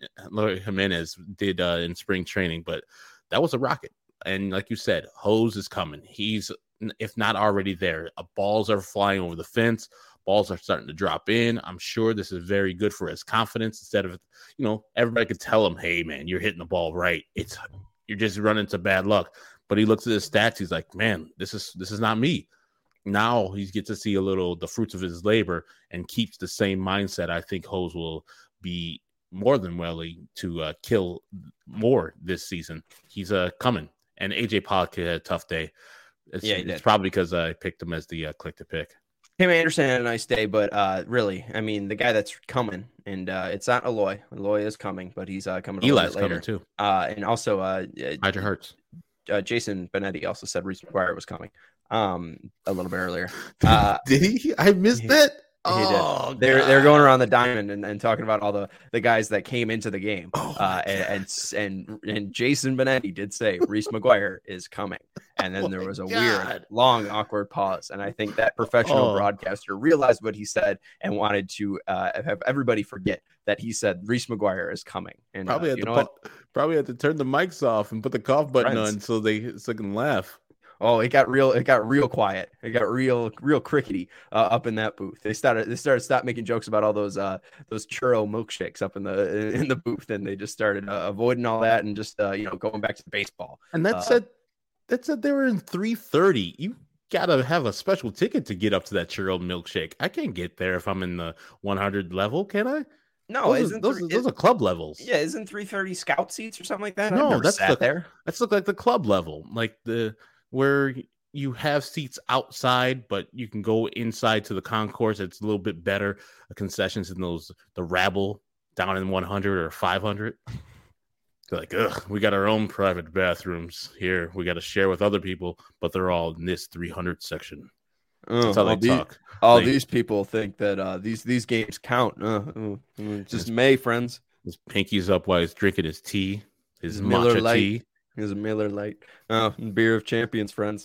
Jimenez did uh, in spring training. But that was a rocket. And like you said, Hose is coming. He's, if not already there. Uh, balls are flying over the fence. Balls are starting to drop in. I'm sure this is very good for his confidence. Instead of, you know, everybody could tell him, hey, man, you're hitting the ball right. It's You're just running into bad luck. But he looks at his stats. He's like, man, this is this is not me. Now he gets to see a little the fruits of his labor and keeps the same mindset. I think Hose will be more than willing to uh, kill more this season. He's uh, coming. And A J Pollock had a tough day. It's, yeah, it's probably because I picked him as the uh, click to pick. Tim Anderson had a nice day, but uh, really, I mean, the guy that's coming, and uh, it's not Eloy. Eloy is coming, but he's uh, coming a Eli's little bit later. Coming too. Uh, and also, uh, Hydra Hurts. Uh, Jason Benetti also said Reese McGuire was coming um, a little bit earlier. Uh, did he? I missed he, that. He oh, did. They're they're going around the diamond and, and talking about all the, the guys that came into the game. Oh uh, and, and and and Jason Benetti did say Reese McGuire is coming. And then oh there was a God. weird, long, awkward pause. And I think that professional oh. broadcaster realized what he said and wanted to uh, have everybody forget that he said Reese McGuire is coming. And probably uh, had you to know put, probably had to turn the mics off and put the cough button Friends. on so they so they can laugh. Oh, it got real. It got real quiet. It got real, real crickety uh, up in that booth. They started. They started stop making jokes about all those uh, those churro milkshakes up in the in the booth, and they just started uh, avoiding all that and just uh, you know going back to the baseball. And that uh, said, that said they were in three thirty. You gotta have a special ticket to get up to that churro milkshake. I can't get there if I'm in the one hundred level, can I? No, those, isn't are, those, three, those are club levels. Yeah, isn't three thirty scout seats or something like that? No, that's sat the, there. That's look like the club level, like the. Where you have seats outside, but you can go inside to the concourse. It's a little bit better concessions than those the rabble down in one hundred or five hundred. They're like, ugh, we got our own private bathrooms here. We got to share with other people, but they're all in this three hundred section. Oh, That's how all they these, talk. All they, these people think that uh, these these games count. Uh, uh, just May, friends. His pinky's up while he's drinking his tea, his, his Miller matcha Light. tea. His Miller Light. Oh, beer of champions, friends.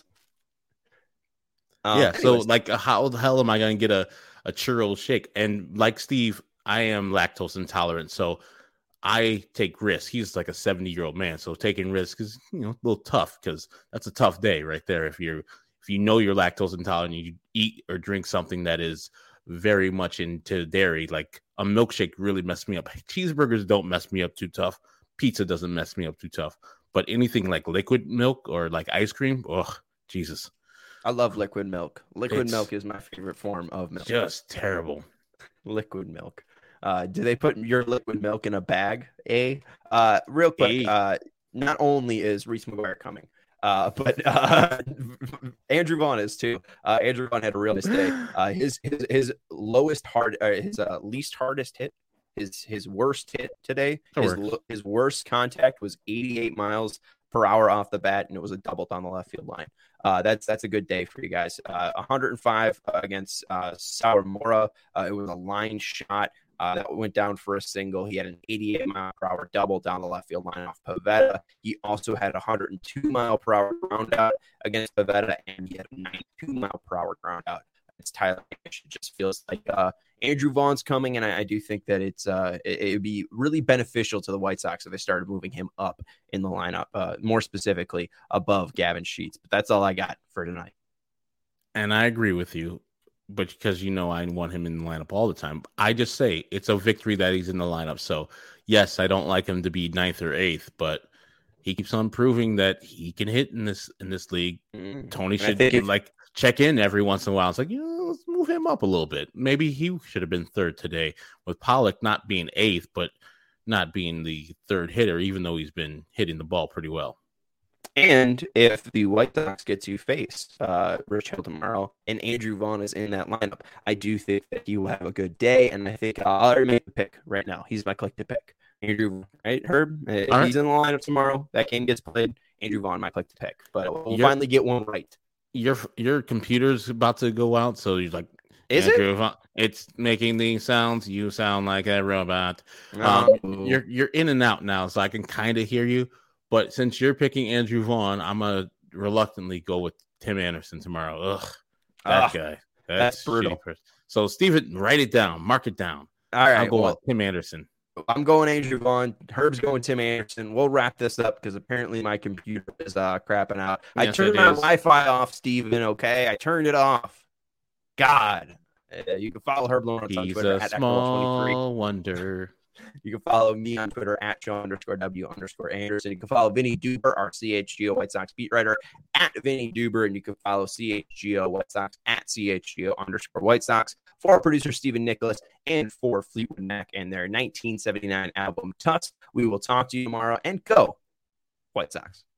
Um, yeah, anyways. So like, how the hell am I going to get a, a churro shake? And like Steve, I am lactose intolerant, so I take risks. He's like a seventy-year-old man, so taking risks is, you know, a little tough because that's a tough day right there. If you're if you know you're lactose intolerant, you eat or drink something that is very much into dairy, like a milkshake really messed me up. Cheeseburgers don't mess me up too tough. Pizza doesn't mess me up too tough. But anything like liquid milk or like ice cream, oh, Jesus. I love liquid milk. Liquid It's milk is my favorite form of milk. Just terrible. Liquid milk. Uh, do they put your liquid milk in a bag? A uh, real quick. A. Uh, not only is Reese McGuire coming, uh, but uh, Andrew Vaughn is too. Uh, Andrew Vaughn had a real nice day. Uh, his his his lowest hard, uh, his uh, least hardest hit, his his worst hit today. His, his worst contact was eighty-eight miles per hour off the bat, and it was a double down the left field line. Uh, that's that's a good day for you guys. Uh, one hundred five against uh, Sawamura. Uh, it was a line shot. Uh, that went down for a single. He had an eighty-eight mile per hour double down the left field line off Pivetta. He also had a one hundred two mile per hour ground out against Pivetta, and he had a ninety-two mile per hour ground out against Tyler Nash. It just feels like uh, Andrew Vaughn's coming, and I, I do think that it's uh, it, it would be really beneficial to the White Sox if they started moving him up in the lineup, uh, more specifically above Gavin Sheets. But that's all I got for tonight. And I agree with you, but because you know I want him in the lineup all the time, I just say it's a victory that he's in the lineup. So, yes, I don't like him to be ninth or eighth, but he keeps on proving that he can hit in this in this league. Mm-hmm. Tony should if- like check in every once in a while. It's like, you know, let's move him up a little bit. Maybe he should have been third today, with Pollock not being eighth, but not being the third hitter, even though he's been hitting the ball pretty well. And if the White Sox get to face uh, Rich Hill tomorrow and Andrew Vaughn is in that lineup, I do think that he will have a good day. And I think uh, I'll already make the pick right now. He's my collective pick. Andrew, right, Herb? If All he's right. in the lineup tomorrow, that game gets played, Andrew Vaughn might click the pick. But we'll you're, finally get one right. Your your computer's about to go out, so you're like, is Andrew it? Vaughn, it's making these sounds. You sound like a robot. Oh. Um, you're you're in and out now, so I can kind of hear you. But since you're picking Andrew Vaughn, I'm going to reluctantly go with Tim Anderson tomorrow. Ugh, that ah, guy. That's, that's brutal. So, Steven, write it down. Mark it down. All right. I'll go well, with Tim Anderson. I'm going Andrew Vaughn. Herb's going Tim Anderson. We'll wrap this up because apparently my computer is uh, crapping out. Yes, I turned my is. Wi-Fi off, Steven, okay? I turned it off. God. Uh, you can follow Herb Lawrence on Twitter. He's a small wonder. You can follow me on Twitter at Joe underscore W underscore Anderson. You can follow Vinny Duber, our C H G O White Sox beat writer, at Vinny Duber, and you can follow C H G O White Sox at C H G O underscore White Sox. For our producer, Stephen Nicholas, and for Fleetwood Mac and their nineteen seventy-nine album, Tuts. We will talk to you tomorrow, and go White Sox.